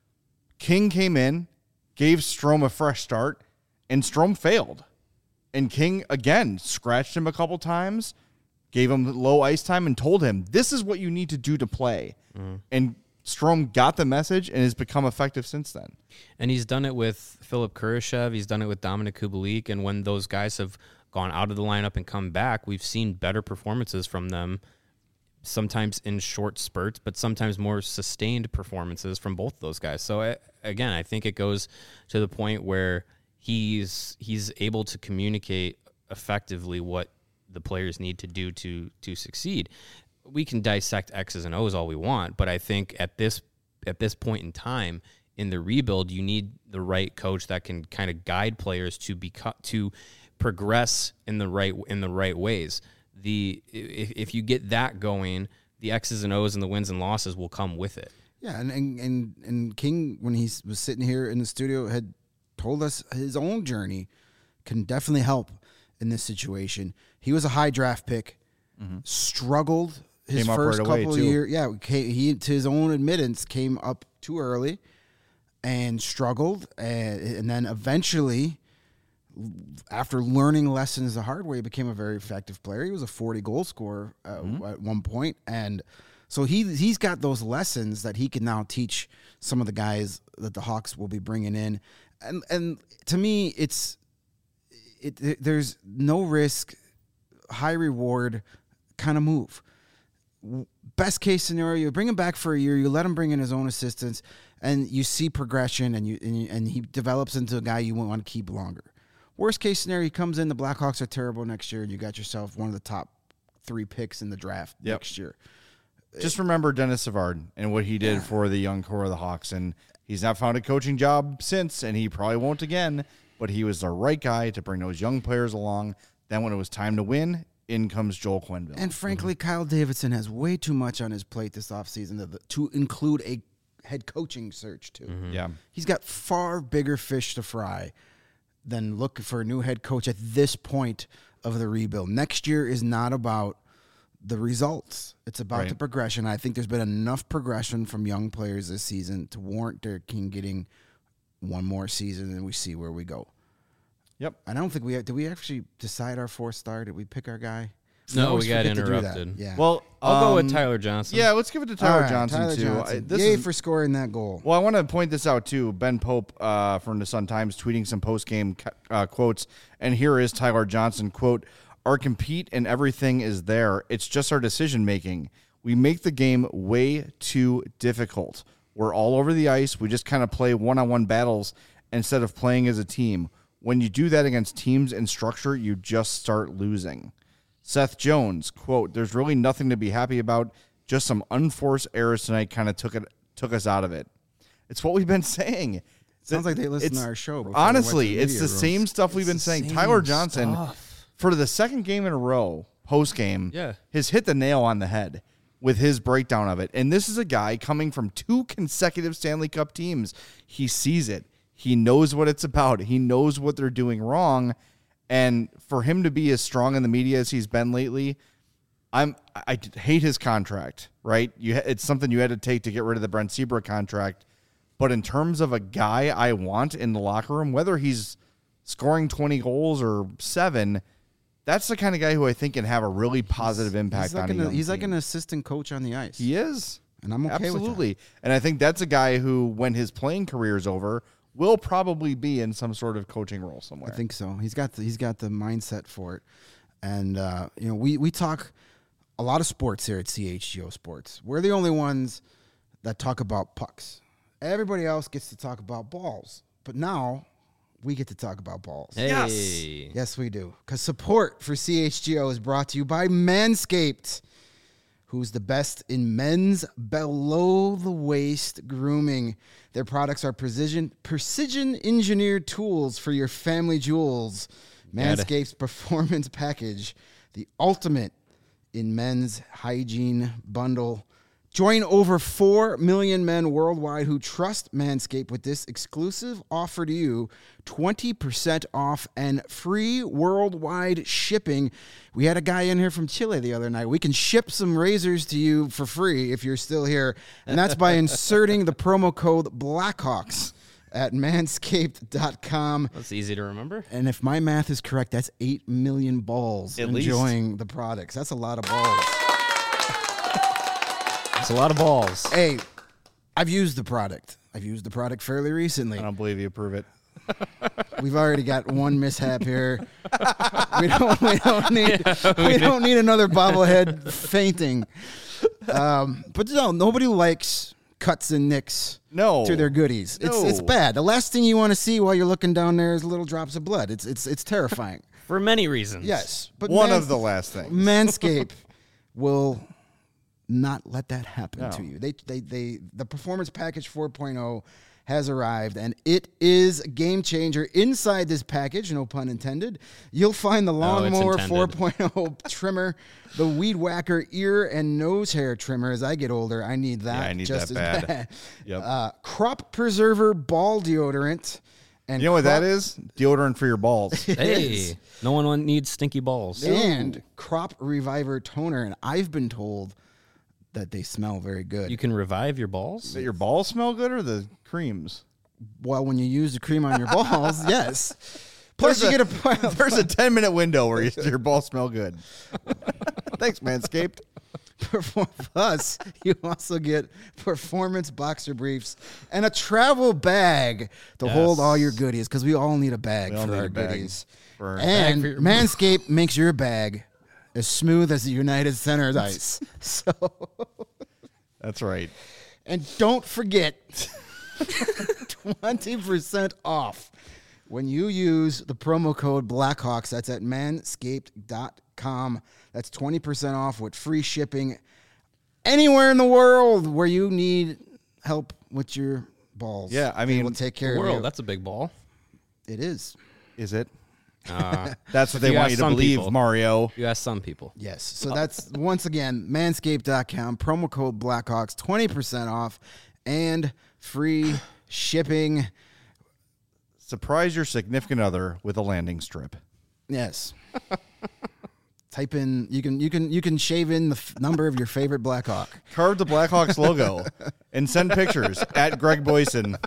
[SPEAKER 1] King came in, gave Strome a fresh start, and Strome failed. And King, again, scratched him a couple times, gave him low ice time, and told him, this is what you need to do to play. Mm. And Strome got the message and has become effective since then.
[SPEAKER 2] And he's done it with Philip Kurashev. He's done it with Dominic Kubalik. And when those guys have gone out of the lineup and come back, we've seen better performances from them, sometimes in short spurts, but sometimes more sustained performances from both those guys. So I, again, I think it goes to the point where he's he's able to communicate effectively what the players need to do to to succeed. We can dissect X's and O's all we want, but I think at this at this point in time in the rebuild, you need the right coach that can kind of guide players to be to progress in the right in the right ways. The if, if you get that going, the X's and O's and the wins and losses will come with it.
[SPEAKER 3] Yeah, and and and, and King, when he was sitting here in the studio, had told us his own journey can definitely help in this situation. He was a high draft pick, mm-hmm. struggled his
[SPEAKER 1] came
[SPEAKER 3] first
[SPEAKER 1] right
[SPEAKER 3] couple
[SPEAKER 1] away,
[SPEAKER 3] of
[SPEAKER 1] too.
[SPEAKER 3] years. Yeah, he, to his own admittance, came up too early and struggled, and, and then eventually, after learning lessons the hard way, he became a very effective player. He was a forty goal scorer uh, mm-hmm. at one point, and so he he's got those lessons that he can now teach some of the guys that the Hawks will be bringing in, and and to me, it's it, it there's no risk, high reward kind of move. Best case scenario, you bring him back for a year, you let him bring in his own assistants, and you see progression, and you and, you, and he develops into a guy you want to keep longer. Worst case scenario, he comes in, the Blackhawks are terrible next year, and you got yourself one of the top three picks in the draft
[SPEAKER 1] yep.
[SPEAKER 3] next year.
[SPEAKER 1] Just remember Dennis Savard and what he did yeah. for the young core of the Hawks, and he's not found a coaching job since, and he probably won't again, but he was the right guy to bring those young players along. Then when it was time to win, in comes Joel Quenneville.
[SPEAKER 3] And frankly, mm-hmm. Kyle Davidson has way too much on his plate this offseason to, to include a head coaching search, too.
[SPEAKER 1] Mm-hmm. Yeah.
[SPEAKER 3] He's got far bigger fish to fry than look for a new head coach at this point of the rebuild. Next year is not about the results. It's about
[SPEAKER 1] right.
[SPEAKER 3] the progression. I think there's been enough progression from young players this season to warrant Derek King getting one more season, and we see where we go.
[SPEAKER 1] Yep.
[SPEAKER 3] And I don't think we did we actually decide our fourth star? Did we pick our guy?
[SPEAKER 2] No,
[SPEAKER 3] always
[SPEAKER 2] we got
[SPEAKER 3] forget to do that.
[SPEAKER 2] interrupted.
[SPEAKER 3] Yeah.
[SPEAKER 1] Well,
[SPEAKER 2] I'll go with
[SPEAKER 1] um,
[SPEAKER 2] Tyler Johnson.
[SPEAKER 1] Yeah, let's give it to Tyler
[SPEAKER 3] All right,
[SPEAKER 1] Johnson,
[SPEAKER 3] Tyler
[SPEAKER 1] too.
[SPEAKER 3] Johnson.
[SPEAKER 1] I, this
[SPEAKER 3] Yay
[SPEAKER 1] is,
[SPEAKER 3] for scoring that goal.
[SPEAKER 1] Well, I want to point this out, too. Ben Pope uh, from the Sun-Times tweeting some post-game uh, quotes, and here is Tyler Johnson, quote, "Our compete and everything is there. It's just our decision-making. We make the game way too difficult. We're all over the ice. We just kind of play one-on-one battles instead of playing as a team. When you do that against teams and structure, you just start losing." Seth Jones, quote, "There's really nothing to be happy about. Just some unforced errors tonight kind of took it took us out of it." It's what we've been saying.
[SPEAKER 3] Sounds like they listen
[SPEAKER 1] It's-
[SPEAKER 3] to our show. before they
[SPEAKER 1] Honestly,
[SPEAKER 3] went to
[SPEAKER 1] it's the
[SPEAKER 3] media rooms.
[SPEAKER 1] same stuff we've
[SPEAKER 2] It's
[SPEAKER 1] been
[SPEAKER 2] the
[SPEAKER 1] saying.
[SPEAKER 2] same
[SPEAKER 1] Tyler Johnson,
[SPEAKER 2] stuff.
[SPEAKER 1] for the second game in a row, post game,
[SPEAKER 2] Yeah.
[SPEAKER 1] has hit the nail on the head with his breakdown of it. And this is a guy coming from two consecutive Stanley Cup teams. He sees it. He knows what it's about. He knows what they're doing wrong. And for him to be as strong in the media as he's been lately, I'm I hate his contract, right? You it's something you had to take to get rid of the Brent Seabrook contract. But in terms of a guy I want in the locker room, whether he's scoring twenty goals or seven, that's the kind of guy who I think can have a really positive impact
[SPEAKER 3] He's like,
[SPEAKER 1] on a
[SPEAKER 3] an,
[SPEAKER 1] young
[SPEAKER 3] he's like
[SPEAKER 1] team.
[SPEAKER 3] an assistant coach on the ice.
[SPEAKER 1] He is.
[SPEAKER 3] And I'm okay with that.
[SPEAKER 1] Absolutely. And I think that's a guy who, when his playing career is over, will probably be in some sort of coaching role somewhere.
[SPEAKER 3] I think so. He's got the, he's got the mindset for it. And, uh, you know, we, we talk a lot of sports here at C H G O Sports. We're the only ones that talk about pucks. Everybody else gets to talk about balls. But now we get to talk about balls.
[SPEAKER 2] Hey.
[SPEAKER 1] Yes.
[SPEAKER 3] Yes, we do. Because support for C H G O is brought to you by Manscaped, who's the best in men's below-the-waist grooming. Their products are precision precision engineered tools for your family jewels. Manscaped's Performance Package, the ultimate in men's hygiene bundle. Join over four million men worldwide who trust Manscaped with this exclusive offer to you, twenty percent off and free worldwide shipping. We had a guy in here from Chile the other night. We can ship some razors to you for free if you're still here, and that's by inserting the promo code Blackhawks at manscaped dot com.
[SPEAKER 2] That's easy to remember.
[SPEAKER 3] And if my math is correct, that's eight million balls
[SPEAKER 1] At least.
[SPEAKER 3] enjoying the products. That's a lot of balls.
[SPEAKER 2] It's a lot of balls.
[SPEAKER 3] Hey, I've used the product. I've used the product fairly recently.
[SPEAKER 1] I don't believe you. Prove it.
[SPEAKER 3] We've already got one mishap here. We don't. We don't need. Yeah, we, we don't need another bobblehead fainting. Um, but no, nobody likes cuts and nicks.
[SPEAKER 1] No.
[SPEAKER 3] To their goodies. It's
[SPEAKER 1] No.
[SPEAKER 3] it's bad. The last thing you want to see while you're looking down there is little drops of blood. It's it's it's terrifying.
[SPEAKER 2] For many reasons.
[SPEAKER 3] Yes, but
[SPEAKER 1] One
[SPEAKER 3] Mans-
[SPEAKER 1] of the last things.
[SPEAKER 3] Manscaped will not let that happen
[SPEAKER 1] No.
[SPEAKER 3] to you. They, they, they, the Performance Package four point oh has arrived, and it is a game changer. Inside this package, no pun intended, you'll find the Lawnmower four point oh trimmer, the Weed Whacker ear and nose hair trimmer. As I get older, I need that
[SPEAKER 1] Yeah, I need
[SPEAKER 3] just
[SPEAKER 1] that
[SPEAKER 3] as
[SPEAKER 1] bad.
[SPEAKER 3] bad.
[SPEAKER 1] Yep.
[SPEAKER 3] Uh, crop Preserver ball deodorant. And
[SPEAKER 1] You know what
[SPEAKER 3] crop-
[SPEAKER 1] that is? Deodorant for your balls.
[SPEAKER 2] Hey, no one want- needs stinky balls.
[SPEAKER 3] And Crop Reviver toner, and I've been told that they smell very good.
[SPEAKER 2] You can revive your balls?
[SPEAKER 1] Does your balls smell good or the creams?
[SPEAKER 3] well, when you use the cream on your balls, yes. Plus, you
[SPEAKER 1] There's
[SPEAKER 3] get a
[SPEAKER 1] There's a ten minute window where you, your balls smell good. Thanks, Manscaped.
[SPEAKER 3] Plus, you also get performance boxer briefs and a travel bag to
[SPEAKER 2] Yes.
[SPEAKER 3] hold all your goodies, because we all need a bag
[SPEAKER 1] We all
[SPEAKER 3] for
[SPEAKER 1] need
[SPEAKER 3] our
[SPEAKER 1] a bag
[SPEAKER 3] goodies.
[SPEAKER 1] for our-
[SPEAKER 3] And
[SPEAKER 2] Bag for your-
[SPEAKER 3] Manscaped makes your bag as smooth as the United Center's ice. So,
[SPEAKER 1] That's right.
[SPEAKER 3] and don't forget, twenty percent off when you use the promo code Blackhawks. That's at manscaped dot com. That's twenty percent off with free shipping anywhere in the world where you need help with your balls.
[SPEAKER 1] Yeah, I
[SPEAKER 3] They
[SPEAKER 1] mean,
[SPEAKER 3] will take care of
[SPEAKER 2] World,
[SPEAKER 3] you.
[SPEAKER 2] that's a big ball.
[SPEAKER 3] It is.
[SPEAKER 1] Is it?
[SPEAKER 2] Uh,
[SPEAKER 1] That's what they
[SPEAKER 2] you
[SPEAKER 1] want
[SPEAKER 2] ask
[SPEAKER 1] you to
[SPEAKER 2] some
[SPEAKER 1] believe,
[SPEAKER 2] people.
[SPEAKER 1] Mario.
[SPEAKER 2] you ask some people.
[SPEAKER 3] Yes. So that's once again manscaped dot com, promo code Blackhawks, twenty percent off and free shipping.
[SPEAKER 1] Surprise your significant other with a landing strip.
[SPEAKER 3] Yes. Type in you can you can you can shave in the f- number of your favorite Blackhawk.
[SPEAKER 1] Carve the Blackhawks logo and send pictures at Greg Boyson.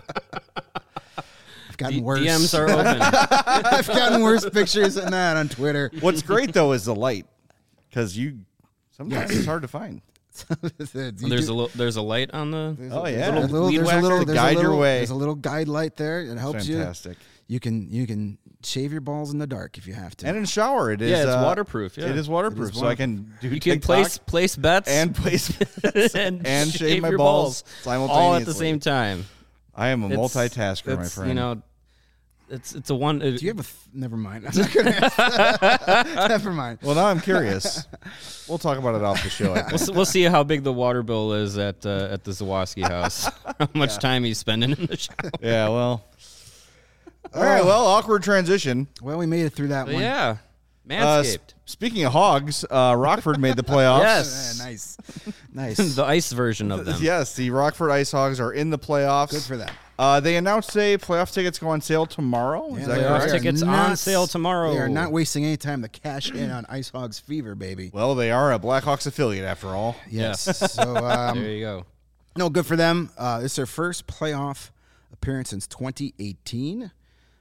[SPEAKER 3] I've gotten
[SPEAKER 2] D-
[SPEAKER 3] worse.
[SPEAKER 2] D Ms are open.
[SPEAKER 3] I've gotten worse pictures than that on Twitter.
[SPEAKER 1] What's great though is the light, because you sometimes it's hard to find.
[SPEAKER 2] there's a little, there's a light on the.
[SPEAKER 1] Oh
[SPEAKER 3] There's
[SPEAKER 1] yeah,
[SPEAKER 3] a little,
[SPEAKER 1] Weed
[SPEAKER 3] there's a
[SPEAKER 1] whacker
[SPEAKER 3] little,
[SPEAKER 1] to
[SPEAKER 3] there's a
[SPEAKER 1] guide
[SPEAKER 3] little,
[SPEAKER 1] your way.
[SPEAKER 3] There's a little guide light there. It helps
[SPEAKER 1] Fantastic.
[SPEAKER 3] you. You can you can shave your balls in the dark if you have to.
[SPEAKER 1] And in shower, it is.
[SPEAKER 2] Yeah, it's
[SPEAKER 1] uh,
[SPEAKER 2] waterproof, yeah.
[SPEAKER 1] it is waterproof,
[SPEAKER 3] It is
[SPEAKER 1] so I can do
[SPEAKER 2] You can
[SPEAKER 1] TikTok
[SPEAKER 2] place place bets
[SPEAKER 1] and place
[SPEAKER 2] and,
[SPEAKER 1] and shave my
[SPEAKER 2] your
[SPEAKER 1] balls simultaneously.
[SPEAKER 2] all at the same time.
[SPEAKER 1] I am a
[SPEAKER 2] It's-
[SPEAKER 1] multitasker, my
[SPEAKER 2] it's,
[SPEAKER 1] friend.
[SPEAKER 2] You know, it's it's a one. uh,
[SPEAKER 3] Do you have a? Th- never mind. I'm not gonna ask. Never mind.
[SPEAKER 1] well, now I'm curious. We'll talk about it off the show. I
[SPEAKER 2] We'll,
[SPEAKER 1] think.
[SPEAKER 2] s- we'll see how big the water bill is at uh, at the Zawoski house. How much time he's spending in the shower.
[SPEAKER 1] Yeah, well. All right, well, awkward transition.
[SPEAKER 3] Well, we made it through that
[SPEAKER 2] But
[SPEAKER 3] one.
[SPEAKER 2] yeah,
[SPEAKER 1] Uh, s-
[SPEAKER 2] Manscaped.
[SPEAKER 1] speaking of hogs, uh, Rockford made the playoffs.
[SPEAKER 2] Yes.
[SPEAKER 3] Yeah, nice, nice.
[SPEAKER 2] the ice version of them.
[SPEAKER 1] Yes, the Rockford Ice Hogs are in the playoffs.
[SPEAKER 3] Good for them.
[SPEAKER 1] Uh, they announced today playoff tickets go on sale tomorrow. Is
[SPEAKER 3] Yeah,
[SPEAKER 1] that
[SPEAKER 3] they
[SPEAKER 2] playoff
[SPEAKER 3] are
[SPEAKER 1] correct?
[SPEAKER 2] tickets on
[SPEAKER 3] not-
[SPEAKER 2] sale tomorrow.
[SPEAKER 3] They are not wasting any time to cash in on Ice Hogs Fever, baby.
[SPEAKER 1] Well, they are a Blackhawks affiliate after all.
[SPEAKER 3] Yes.
[SPEAKER 2] Yeah.
[SPEAKER 3] So, um,
[SPEAKER 2] There you go.
[SPEAKER 3] no, good for them. Uh, it's their first playoff appearance since twenty eighteen.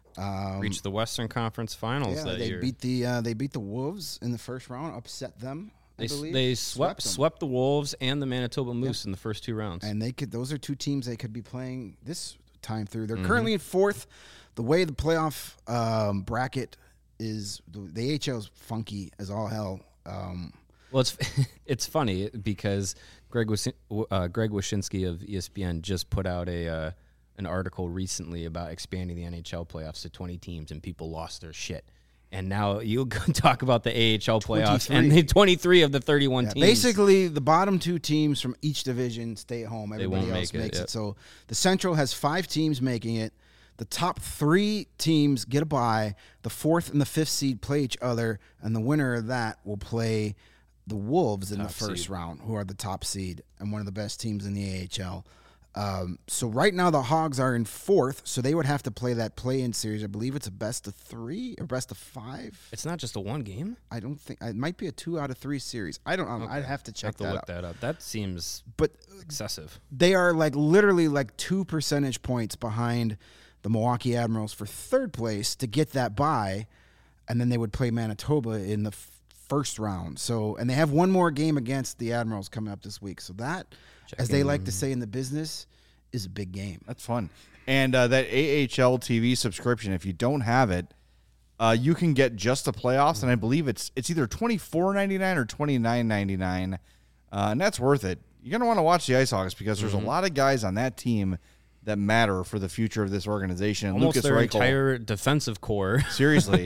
[SPEAKER 3] Um,
[SPEAKER 2] Reached the Western Conference Finals
[SPEAKER 3] yeah,
[SPEAKER 2] that
[SPEAKER 3] they
[SPEAKER 2] year.
[SPEAKER 3] beat the uh, they beat the Wolves in the first round, upset them. I
[SPEAKER 2] they s-
[SPEAKER 3] believe.
[SPEAKER 2] they swept
[SPEAKER 3] them.
[SPEAKER 2] swept the Wolves and the Manitoba Moose in the first two rounds.
[SPEAKER 3] and they could. Those are two teams they could be playing this time through. They're
[SPEAKER 2] Mm-hmm.
[SPEAKER 3] currently in fourth. The way the playoff um, bracket is, the, the A H L is funky as all hell. Um,
[SPEAKER 2] Well, it's it's funny because Greg Wis- uh, Greg Wyshynski of E S P N just put out a uh, an article recently about expanding the N H L playoffs to twenty teams, and people lost their shit. And now you go talk about the A H L playoffs, and the twenty-three of the thirty-one
[SPEAKER 3] Yeah,
[SPEAKER 2] teams.
[SPEAKER 3] basically, the bottom two teams from each division stay home. Everybody
[SPEAKER 2] won't
[SPEAKER 3] else
[SPEAKER 2] make it,
[SPEAKER 3] makes it,
[SPEAKER 2] yep.
[SPEAKER 3] So the Central has five teams making it. The top three teams get a bye. The fourth and the fifth seed play each other, and the winner of that will play the Wolves in
[SPEAKER 2] Top
[SPEAKER 3] the first
[SPEAKER 2] seed.
[SPEAKER 3] round, who are the top seed and one of the best teams in the A H L. Um, so right now the Hogs are in fourth, so they would have to play that play-in series. I believe it's a best of three or best of five.
[SPEAKER 2] it's not just a one game.
[SPEAKER 3] I don't think it might be a two out of three series. I don't know. I'd have to
[SPEAKER 2] I
[SPEAKER 3] check
[SPEAKER 2] have to
[SPEAKER 3] that
[SPEAKER 2] look
[SPEAKER 3] out.
[SPEAKER 2] that up. That seems
[SPEAKER 3] But
[SPEAKER 2] excessive.
[SPEAKER 3] they are like literally like two percentage points behind the Milwaukee Admirals for third place to get that bye, and then they would play Manitoba in the f- first round. So, and they have one more game against the Admirals coming up this week. So that, as they like to say in the business, is a big game.
[SPEAKER 1] That's fun. And uh, that A H L T V subscription, if you don't have it, uh, you can get just the playoffs, and I believe it's it's either twenty-four ninety-nine or twenty-nine ninety-nine, uh, and that's worth it. You're gonna want to watch the Ice Hogs because there's a lot of guys on that team that matter for the future of this organization. And
[SPEAKER 2] Almost
[SPEAKER 1] Lucas
[SPEAKER 2] their
[SPEAKER 1] Reichel,
[SPEAKER 2] entire defensive core.
[SPEAKER 1] seriously,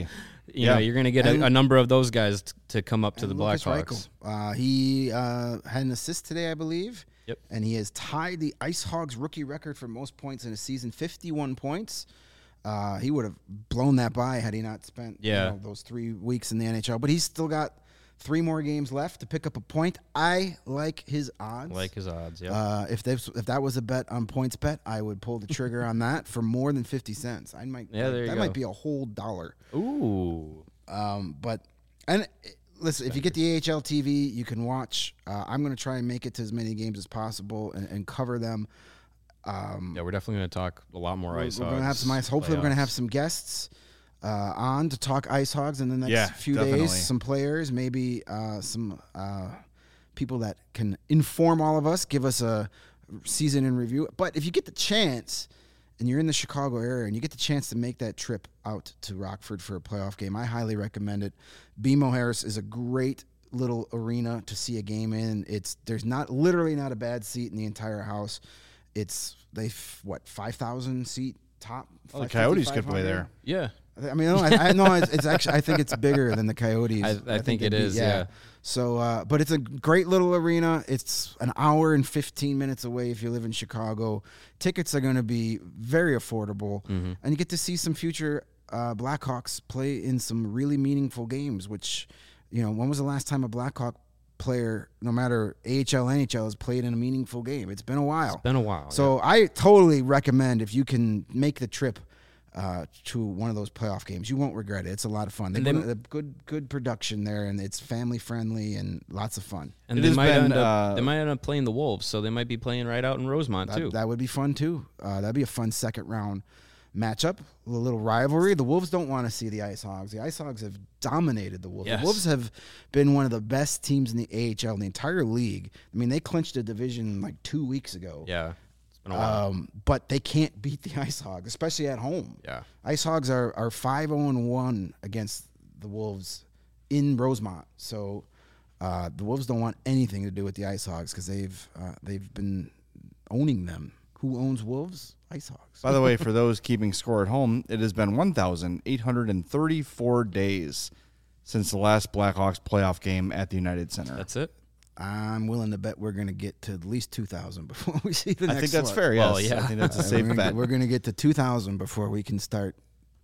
[SPEAKER 2] you
[SPEAKER 1] Yeah.
[SPEAKER 2] know, you're going to get
[SPEAKER 3] And-
[SPEAKER 2] a, a number of those guys t- to come up to the
[SPEAKER 3] And Lucas
[SPEAKER 2] Blackhawks.
[SPEAKER 3] Reichel. Uh, he uh, had an assist today, I believe.
[SPEAKER 2] Yep.
[SPEAKER 3] And he has tied the Ice Hogs rookie record for most points in a season, fifty-one points. Uh, he would have blown that by had he not spent
[SPEAKER 2] Yeah.
[SPEAKER 3] you know, those three weeks in the N H L. But he's still got three more games left to pick up a point. I like his odds.
[SPEAKER 2] Like his odds, yeah.
[SPEAKER 3] Uh, if this, if that was a bet on points bet, I would pull the trigger on that for more than fifty cents. I might.
[SPEAKER 2] Yeah, there you
[SPEAKER 3] that
[SPEAKER 2] go.
[SPEAKER 3] might be a whole dollar.
[SPEAKER 2] Ooh.
[SPEAKER 3] Um, but and uh, listen, if you get the A H L T V, you can watch. Uh, I'm going to try and make it to as many games as possible and, and cover them. Um,
[SPEAKER 2] Yeah, we're definitely going to talk a lot more
[SPEAKER 3] we're
[SPEAKER 2] ice
[SPEAKER 3] we're going to have
[SPEAKER 2] Hogs
[SPEAKER 3] some ice. Hopefully, we're going to have
[SPEAKER 2] playoffs.
[SPEAKER 3] some guests uh, on to talk Ice Hogs in the next
[SPEAKER 1] Yeah,
[SPEAKER 3] few
[SPEAKER 1] definitely.
[SPEAKER 3] days. Some players, maybe uh, some uh, people that can inform all of us, give us a season in review. But if you get the chance and you're in the Chicago area and you get the chance to make that trip out to Rockford for a playoff game, I highly recommend it. B M O Harris is a great little arena to see a game in. It's there's not literally not a bad seat in the entire house. It's they f- what five thousand seat top.
[SPEAKER 1] Oh, the
[SPEAKER 3] five fifty,
[SPEAKER 1] Coyotes could play
[SPEAKER 3] five hundred?
[SPEAKER 1] there.
[SPEAKER 2] Yeah.
[SPEAKER 3] I mean, no, I, I no, it's, it's actually I think it's bigger than the Coyotes.
[SPEAKER 2] I- I think
[SPEAKER 3] they'd
[SPEAKER 2] it
[SPEAKER 3] be-
[SPEAKER 2] is, yeah.
[SPEAKER 3] So, uh, but it's a great little arena. It's an hour and fifteen minutes away if you live in Chicago. Tickets are going to be very affordable,
[SPEAKER 2] Mm-hmm.
[SPEAKER 3] and you get to see some future uh, Blackhawks play in some really meaningful games. Which, you know, when was the last time a Blackhawk player, no matter A H L, N H L, has played in a meaningful game? It's been a while.
[SPEAKER 2] Been a while.
[SPEAKER 3] So I totally recommend if you can make the trip uh, to one of those playoff games. You won't regret it. It's a lot of fun. They
[SPEAKER 2] And
[SPEAKER 3] put
[SPEAKER 2] they-
[SPEAKER 3] a good good production there, and it's family friendly and lots of fun.
[SPEAKER 2] and
[SPEAKER 1] It
[SPEAKER 2] they
[SPEAKER 1] has
[SPEAKER 2] might
[SPEAKER 1] been,
[SPEAKER 2] end up
[SPEAKER 1] uh,
[SPEAKER 2] they might end up playing the Wolves, so they might be playing right out in Rosemont
[SPEAKER 3] That,
[SPEAKER 2] too.
[SPEAKER 3] that would be fun too. Uh, that'd be a fun second round matchup. A little rivalry. The Wolves don't want to see the Ice Hogs. The Ice Hogs have dominated the Wolves.
[SPEAKER 2] Yes.
[SPEAKER 3] The Wolves have been one of the best teams in the A H L in the entire league. I mean, they clinched a division like two weeks ago.
[SPEAKER 2] yeah. It's been a while.
[SPEAKER 3] Um, but they can't beat the Ice Hogs, especially at home.
[SPEAKER 2] yeah.
[SPEAKER 3] Ice Hogs are are five oh and one against the Wolves in Rosemont. So uh, the Wolves don't want anything to do with the Ice Hogs because they've uh, they've been owning them. Who owns Wolves? Ice Hogs.
[SPEAKER 1] By the way, for those keeping score at home, it has been one thousand eight hundred thirty-four days since the last Blackhawks playoff game at the United Center.
[SPEAKER 2] That's it.
[SPEAKER 3] I'm willing to bet we're going to get to at least two thousand before we see the
[SPEAKER 1] I
[SPEAKER 3] next
[SPEAKER 1] think that's
[SPEAKER 3] one.
[SPEAKER 1] fair, yes.
[SPEAKER 2] Well, yeah.
[SPEAKER 1] I think that's a
[SPEAKER 3] Uh,
[SPEAKER 1] safe
[SPEAKER 3] we're gonna,
[SPEAKER 1] bet.
[SPEAKER 3] We're going to get to two thousand before we can start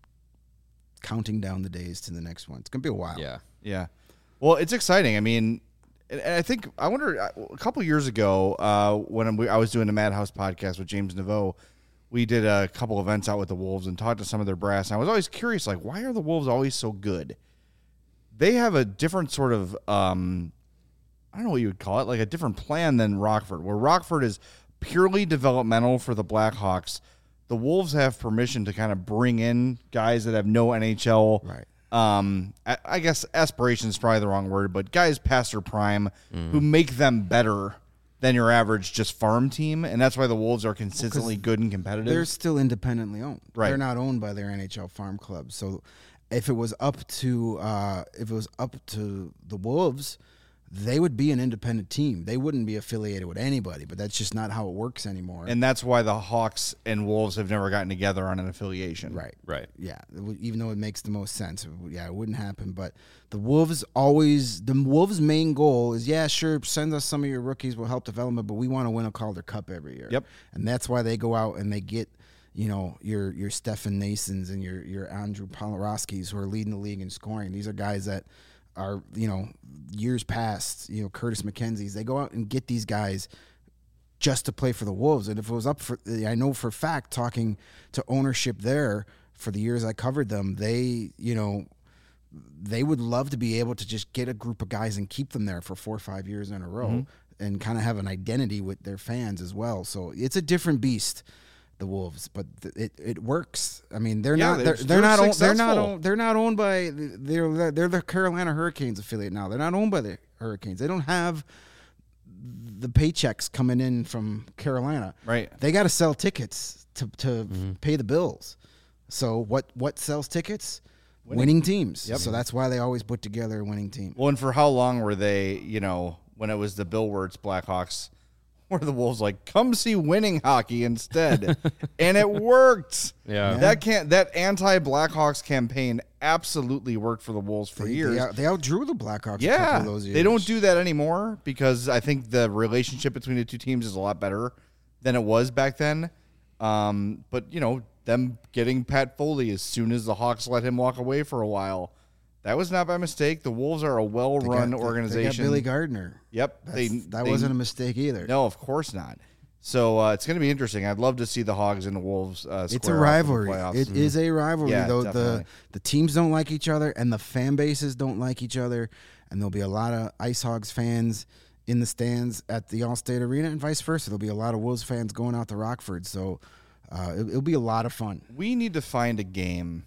[SPEAKER 3] counting down the days to the next one. It's going to be a while.
[SPEAKER 2] Yeah.
[SPEAKER 1] Yeah. Well, it's exciting. I mean, and and I think, I wonder, uh, a couple years ago, uh, when we, I was doing the Madhouse podcast with James Naveau, we did a couple events out with the Wolves and talked to some of their brass. And I was always curious, like, why are the Wolves always so good? They have a different sort of, um, I don't know what you would call it, like a different plan than Rockford, where Rockford is purely developmental for the Blackhawks. The Wolves have permission to kind of bring in guys that have no N H L.
[SPEAKER 3] Right.
[SPEAKER 1] Um, I, I guess aspiration is probably the wrong word, but guys past their prime who make them better than your average just farm team, and that's why the Wolves are consistently good and competitive.
[SPEAKER 3] They're still independently owned.
[SPEAKER 1] Right.
[SPEAKER 3] They're not owned by their N H L farm clubs. So if it was up to uh, if it was up to the Wolves, they would be an independent team. They wouldn't be affiliated with anybody, but that's just not how it works anymore.
[SPEAKER 1] and that's why the Hawks and Wolves have never gotten together on an affiliation.
[SPEAKER 3] right.
[SPEAKER 2] Right.
[SPEAKER 3] Yeah, it would- even though it makes the most sense, it would- yeah, it wouldn't happen. But the Wolves always, the Wolves' main goal is, yeah, sure, send us some of your rookies, will help development, but we want to win a Calder Cup every year.
[SPEAKER 1] Yep.
[SPEAKER 3] And that's why they go out and they get, you know, your your Stefan Nasons and your your Andrew Polorowskis who are leading the league in scoring. These are guys that are, you know, years past, you know, Curtis McKenzie's. They go out and get these guys just to play for the Wolves. And if it was up for, I know for a fact, talking to ownership there for the years I covered them, they, you know, they would love to be able to just get a group of guys and keep them there for four or five years in a row
[SPEAKER 1] Mm-hmm.
[SPEAKER 3] and kind of have an identity with their fans as well. So it's a different beast, the Wolves, but th- it, it works. I mean, they're
[SPEAKER 1] Yeah,
[SPEAKER 3] not
[SPEAKER 1] they're-
[SPEAKER 3] they're, they're,
[SPEAKER 1] they're
[SPEAKER 3] not owned, they're not
[SPEAKER 1] successful.
[SPEAKER 3] owned, they're not owned by they're they're the Carolina Hurricanes affiliate now. They're not owned by the Hurricanes. They don't have the paychecks coming in from Carolina.
[SPEAKER 1] Right.
[SPEAKER 3] They got to sell tickets to to pay the bills. So what what sells tickets? Winning, teams.
[SPEAKER 1] Yep.
[SPEAKER 3] So that's why they always put together a winning team.
[SPEAKER 1] Well, and for how long were they, you know, when it was the Bill Wirtz Blackhawks, where the Wolves like, come see winning hockey instead, and it worked.
[SPEAKER 2] Yeah.
[SPEAKER 1] that can't that anti-Blackhawks campaign absolutely worked for the Wolves for
[SPEAKER 3] They,
[SPEAKER 1] years.
[SPEAKER 3] they, out- they outdrew the Blackhawks. a couple
[SPEAKER 1] Yeah,
[SPEAKER 3] of those years.
[SPEAKER 1] they don't do that anymore because I think the relationship between the two teams is a lot better than it was back then. Um, but you know, them getting Pat Foley as soon as the Hawks let him walk away for a while, that was not by mistake. The Wolves are a
[SPEAKER 3] They got-
[SPEAKER 1] well-run
[SPEAKER 3] they- They got
[SPEAKER 1] organization.
[SPEAKER 3] Billy Gardner.
[SPEAKER 1] Yep,
[SPEAKER 3] That's,
[SPEAKER 1] they,
[SPEAKER 3] that
[SPEAKER 1] they-
[SPEAKER 3] wasn't a mistake either.
[SPEAKER 1] No, of course not. So uh, it's going to be interesting. I'd love to see the Hogs and the Wolves. Uh,
[SPEAKER 3] It's a
[SPEAKER 1] square off in the
[SPEAKER 3] rivalry.
[SPEAKER 1] playoffs.
[SPEAKER 3] It is a rivalry,
[SPEAKER 1] Yeah,
[SPEAKER 3] though.
[SPEAKER 1] definitely.
[SPEAKER 3] The the teams don't like each other, and the fan bases don't like each other, and there'll be a lot of Ice Hogs fans in the stands at the Allstate Arena, and vice versa. There'll be a lot of Wolves fans going out to Rockford. So uh, it, it'll be a lot of fun.
[SPEAKER 1] We need to find a game,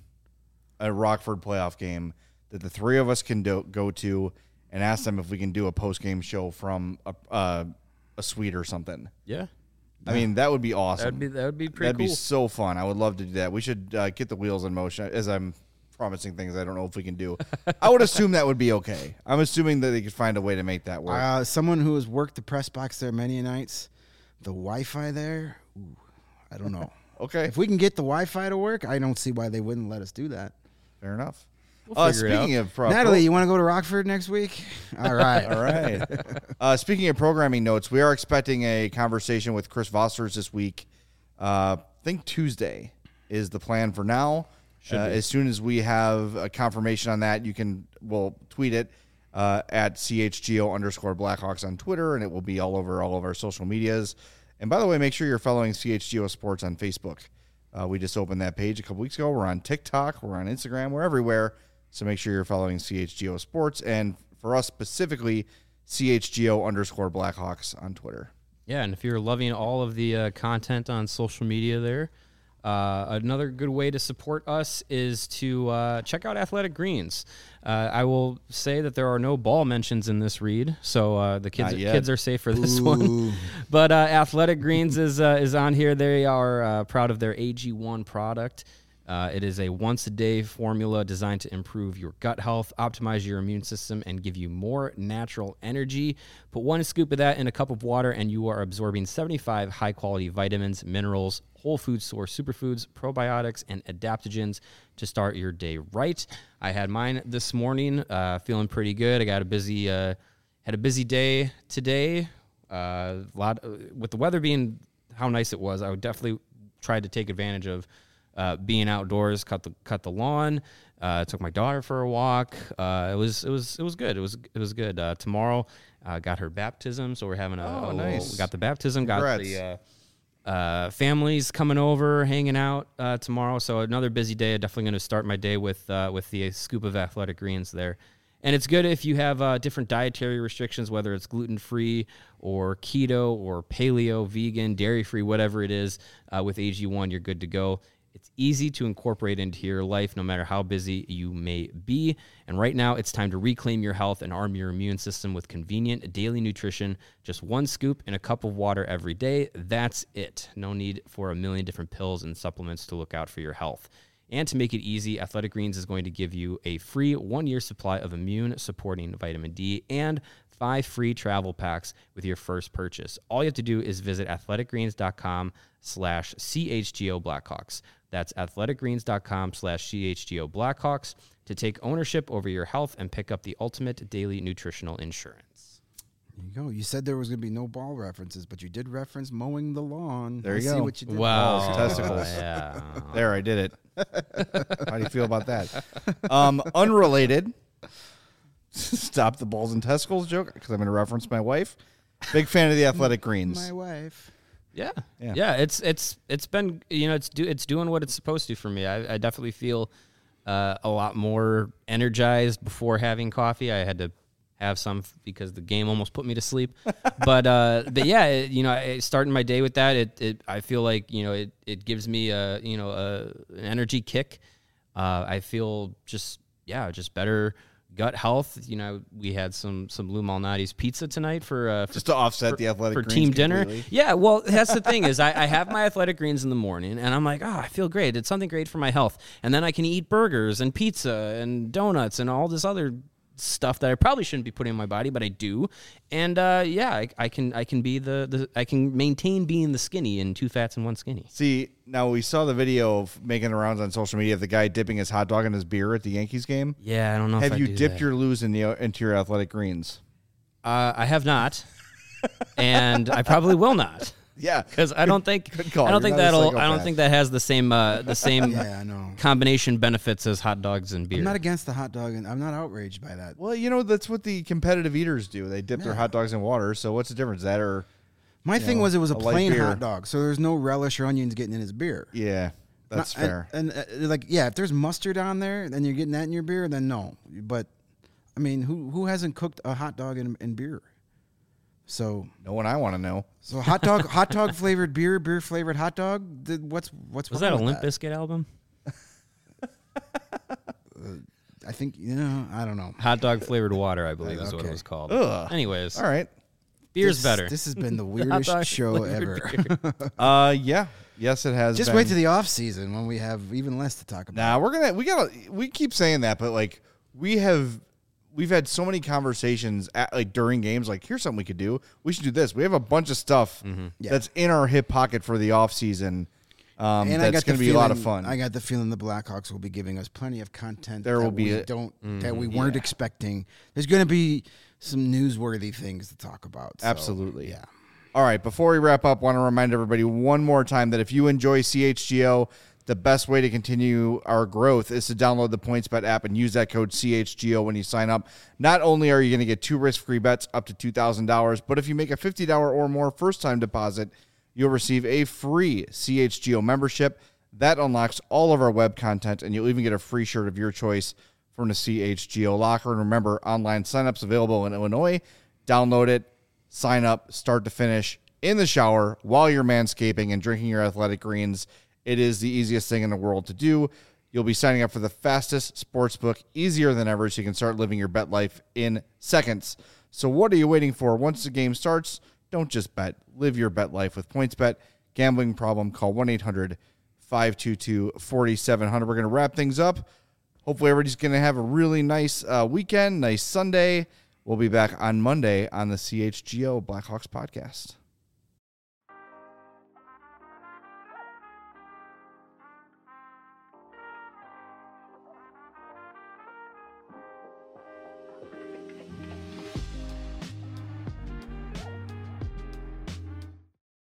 [SPEAKER 1] a Rockford playoff game, that the three of us can do, go to and ask them if we can do a post-game show from a, uh, a suite or something.
[SPEAKER 2] Yeah.
[SPEAKER 1] I mean, that would be awesome.
[SPEAKER 2] That'd be that would be pretty
[SPEAKER 1] That'd
[SPEAKER 2] cool.
[SPEAKER 1] be so fun. I would love to do that. We should uh, get the wheels in motion as I'm promising things I don't know if we can do. I would assume that would be okay. I'm assuming that they could find a way to make that work.
[SPEAKER 3] Uh, someone who has worked the press box there many nights, the Wi-Fi there, ooh, I don't know.
[SPEAKER 1] Okay,
[SPEAKER 3] If we can get the Wi-Fi to work, I don't see why they wouldn't let us do that.
[SPEAKER 1] fair enough.
[SPEAKER 2] We'll
[SPEAKER 1] uh,
[SPEAKER 2] figure it
[SPEAKER 1] speaking
[SPEAKER 2] out.
[SPEAKER 1] of pro-
[SPEAKER 3] Natalie, you want to go to Rockford next week? All right.
[SPEAKER 1] All right. Uh, speaking of programming notes, we are expecting a conversation with Chris Vosters this week. Uh, I think Tuesday is the plan for now. Uh, as soon as we have a confirmation on that, you can we'll tweet it uh, at C H G O underscore Blackhawks on Twitter, and it will be all over all of our social medias. And by the way, make sure you're following C H G O Sports on Facebook. Uh, we just opened that page a couple weeks ago. We're on TikTok. We're on Instagram. We're everywhere. So make sure you're following C H G O Sports. And for us specifically, C H G O underscore Blackhawks on Twitter.
[SPEAKER 2] Yeah, and if you're loving all of the uh, content on social media there, uh, another good way to support us is to uh, check out Athletic Greens. Uh, I will say that there are no ball mentions in this read, so uh, the kids
[SPEAKER 1] Not yet.
[SPEAKER 2] kids are safe for this
[SPEAKER 3] Ooh.
[SPEAKER 2] one. But uh, Athletic Greens is uh, is on here. They are uh, proud of their A G one product. Uh, it is a once-a-day formula designed to improve your gut health, optimize your immune system, and give you more natural energy. Put one scoop of that in a cup of water, and you are absorbing seventy-five high-quality vitamins, minerals, whole food source superfoods, probiotics, and adaptogens to start your day right. I had mine this morning, uh, feeling pretty good. I got a busy, uh, had a busy day today. Uh, a lot with the weather being how nice it was. I would definitely try to take advantage of uh, being outdoors. Cut the cut the lawn. Uh, took my daughter for a walk. Uh, it was it was it was good. It was it was good. Uh, tomorrow, uh, got her baptism, so we're having a,
[SPEAKER 1] Oh,
[SPEAKER 2] a little-
[SPEAKER 1] nice.
[SPEAKER 2] we got the baptism. Got
[SPEAKER 1] Congrats.
[SPEAKER 2] the. Uh, uh, families coming over, hanging out uh, tomorrow. So another busy day. Definitely going to start my day with uh, with the scoop of Athletic Greens there. And it's good if you have uh, different dietary restrictions, whether it's gluten-free or keto or paleo, vegan, dairy-free, whatever it is. Uh, with A G one, you're good to go. It's easy to incorporate into your life no matter how busy you may be. And right now, it's time to reclaim your health and arm your immune system with convenient daily nutrition. Just one scoop in a cup of water every day. That's it. No need for a million different pills and supplements to look out for your health. And to make it easy, Athletic Greens is going to give you a free one-year supply of immune-supporting vitamin D and five free travel packs with your first purchase. All you have to do is visit athleticgreens.com slash CHGO Blackhawks. That's athleticgreens.com slash CHGO Blackhawks to take ownership over your health and pick up the ultimate daily nutritional insurance.
[SPEAKER 3] There you go. You said there was going to be no ball references, but you did reference mowing the lawn.
[SPEAKER 1] There
[SPEAKER 3] I
[SPEAKER 1] you
[SPEAKER 3] see
[SPEAKER 1] go.
[SPEAKER 3] what you did.
[SPEAKER 1] Balls, testicles.
[SPEAKER 2] Yeah.
[SPEAKER 1] There, I did it. How do you feel about that? Um, unrelated. Stop the balls and testicles joke because I'm going to reference my wife. Big fan of the Athletic Greens.
[SPEAKER 3] My wife.
[SPEAKER 2] Yeah.
[SPEAKER 1] Yeah.
[SPEAKER 2] yeah, It's it's it's been you know it's do it's doing what it's supposed to for me. I, I definitely feel uh, a lot more energized before having coffee. I had to have some f- because the game almost put me to sleep. but uh, but yeah, it, you know, I, starting my day with that, it, it I feel like you know it it gives me a you know a, an energy kick. Uh, I feel just yeah just better. Gut health, you know, we had some some Lou Malnati's pizza tonight for uh, for
[SPEAKER 1] Just to offset
[SPEAKER 2] for,
[SPEAKER 1] the Athletic
[SPEAKER 2] for
[SPEAKER 1] Greens
[SPEAKER 2] team dinner.
[SPEAKER 1] completely.
[SPEAKER 2] Yeah, well, that's the thing is I, I have my Athletic Greens in the morning, and I'm like, oh, I feel great. It's something great for my health, and then I can eat burgers and pizza and donuts and all this other stuff that I probably shouldn't be putting in my body, but I do. And uh, yeah, I, I can I can be the, the I can maintain being the skinny in two fats and one skinny.
[SPEAKER 1] See, now we saw the video of making the rounds on social media of the guy dipping his hot dog in his beer at the Yankees game.
[SPEAKER 2] Yeah, I don't know.
[SPEAKER 1] Have
[SPEAKER 2] if
[SPEAKER 1] you
[SPEAKER 2] I do
[SPEAKER 1] dipped
[SPEAKER 2] that.
[SPEAKER 1] your lose in the into your athletic greens?
[SPEAKER 2] Uh, I have not, and I probably will not.
[SPEAKER 1] Yeah,
[SPEAKER 2] Because I don't think
[SPEAKER 1] good call.
[SPEAKER 2] I don't
[SPEAKER 1] You're
[SPEAKER 2] think
[SPEAKER 1] not a
[SPEAKER 2] that'll I don't
[SPEAKER 1] psychopath.
[SPEAKER 2] think that has the same uh, the same
[SPEAKER 3] Yeah, I know.
[SPEAKER 2] combination benefits as hot dogs and beer.
[SPEAKER 3] I'm not against the hot dog, and I'm not outraged by that.
[SPEAKER 1] Well, you know that's what the competitive eaters do. They dip their
[SPEAKER 3] Yeah.
[SPEAKER 1] hot dogs in water. So what's the difference? That or
[SPEAKER 3] My
[SPEAKER 1] you
[SPEAKER 3] thing
[SPEAKER 1] know,
[SPEAKER 3] was it was a,
[SPEAKER 1] a light
[SPEAKER 3] plain
[SPEAKER 1] beer.
[SPEAKER 3] hot dog, so there's no relish or onions getting in his beer.
[SPEAKER 1] yeah, that's
[SPEAKER 3] Not-
[SPEAKER 1] fair.
[SPEAKER 3] And, and uh, like, yeah, if there's mustard on there, then you're getting that in your beer. Then no. But I mean, who who hasn't cooked a hot dog in, in beer? So
[SPEAKER 1] no one I want to know.
[SPEAKER 3] so hot dog hot dog flavored beer, beer flavored hot dog. th- What's what's
[SPEAKER 2] Was
[SPEAKER 3] wrong
[SPEAKER 2] that a
[SPEAKER 3] with
[SPEAKER 2] Limp Bizkit album?
[SPEAKER 3] I think you know. I don't know.
[SPEAKER 2] Hot dog flavored water, I believe, is what it
[SPEAKER 3] Okay.
[SPEAKER 2] was called.
[SPEAKER 1] Ugh.
[SPEAKER 2] Anyways,
[SPEAKER 1] All right.
[SPEAKER 2] beer's
[SPEAKER 3] This-
[SPEAKER 2] better.
[SPEAKER 3] This has been the
[SPEAKER 2] Hot
[SPEAKER 3] weirdest
[SPEAKER 2] dog
[SPEAKER 3] show
[SPEAKER 2] flavored
[SPEAKER 3] ever.
[SPEAKER 2] beer.
[SPEAKER 1] Uh, yeah. Yes, it has.
[SPEAKER 3] Just
[SPEAKER 1] been.
[SPEAKER 3] wait to the off season when we have even less to talk about.
[SPEAKER 1] Nah, we're gonna we gotta we keep saying that, but like we have we've had so many conversations at, like during games. Like, here's something we could do. We should do this. We have a bunch of stuff
[SPEAKER 3] Yeah.
[SPEAKER 1] that's in our hip pocket for the off season. Um,
[SPEAKER 3] And I
[SPEAKER 1] that's
[SPEAKER 3] got
[SPEAKER 1] going
[SPEAKER 3] the
[SPEAKER 1] to be a lot of
[SPEAKER 3] feeling-
[SPEAKER 1] fun.
[SPEAKER 3] I got the feeling the Blackhawks will be giving us plenty of content.
[SPEAKER 1] There
[SPEAKER 3] that
[SPEAKER 1] will be
[SPEAKER 3] we
[SPEAKER 1] a-
[SPEAKER 3] don't that we weren't
[SPEAKER 1] yeah.
[SPEAKER 3] expecting. There's going to be some newsworthy things to talk about. so,
[SPEAKER 1] Absolutely.
[SPEAKER 3] yeah.
[SPEAKER 1] All right, before we wrap up, want to remind everybody one more time that if you enjoy C H G O, the best way to continue our growth is to download the PointsBet app and use that code C H G O when you sign up. Not only are you going to get two risk-free bets up to two thousand dollars, but if you make a fifty dollars or more first-time deposit, you'll receive a free C H G O membership. That unlocks all of our web content, and you'll even get a free shirt of your choice from the C H G O locker. And remember, online signups available in Illinois. Download it. Sign up, start to finish, in the shower, while you're manscaping and drinking your athletic greens. It is the easiest thing in the world to do. You'll be signing up for the fastest sports book, easier than ever, so you can start living your bet life in seconds. So what are you waiting for? Once the game starts, don't just bet. Live your bet life with PointsBet. Gambling problem, call one eight hundred five two two four seven zero zero. We're going to wrap things up. Hopefully everybody's going to have a really nice uh, weekend, nice Sunday. We'll be back on Monday on the C H G O Blackhawks podcast.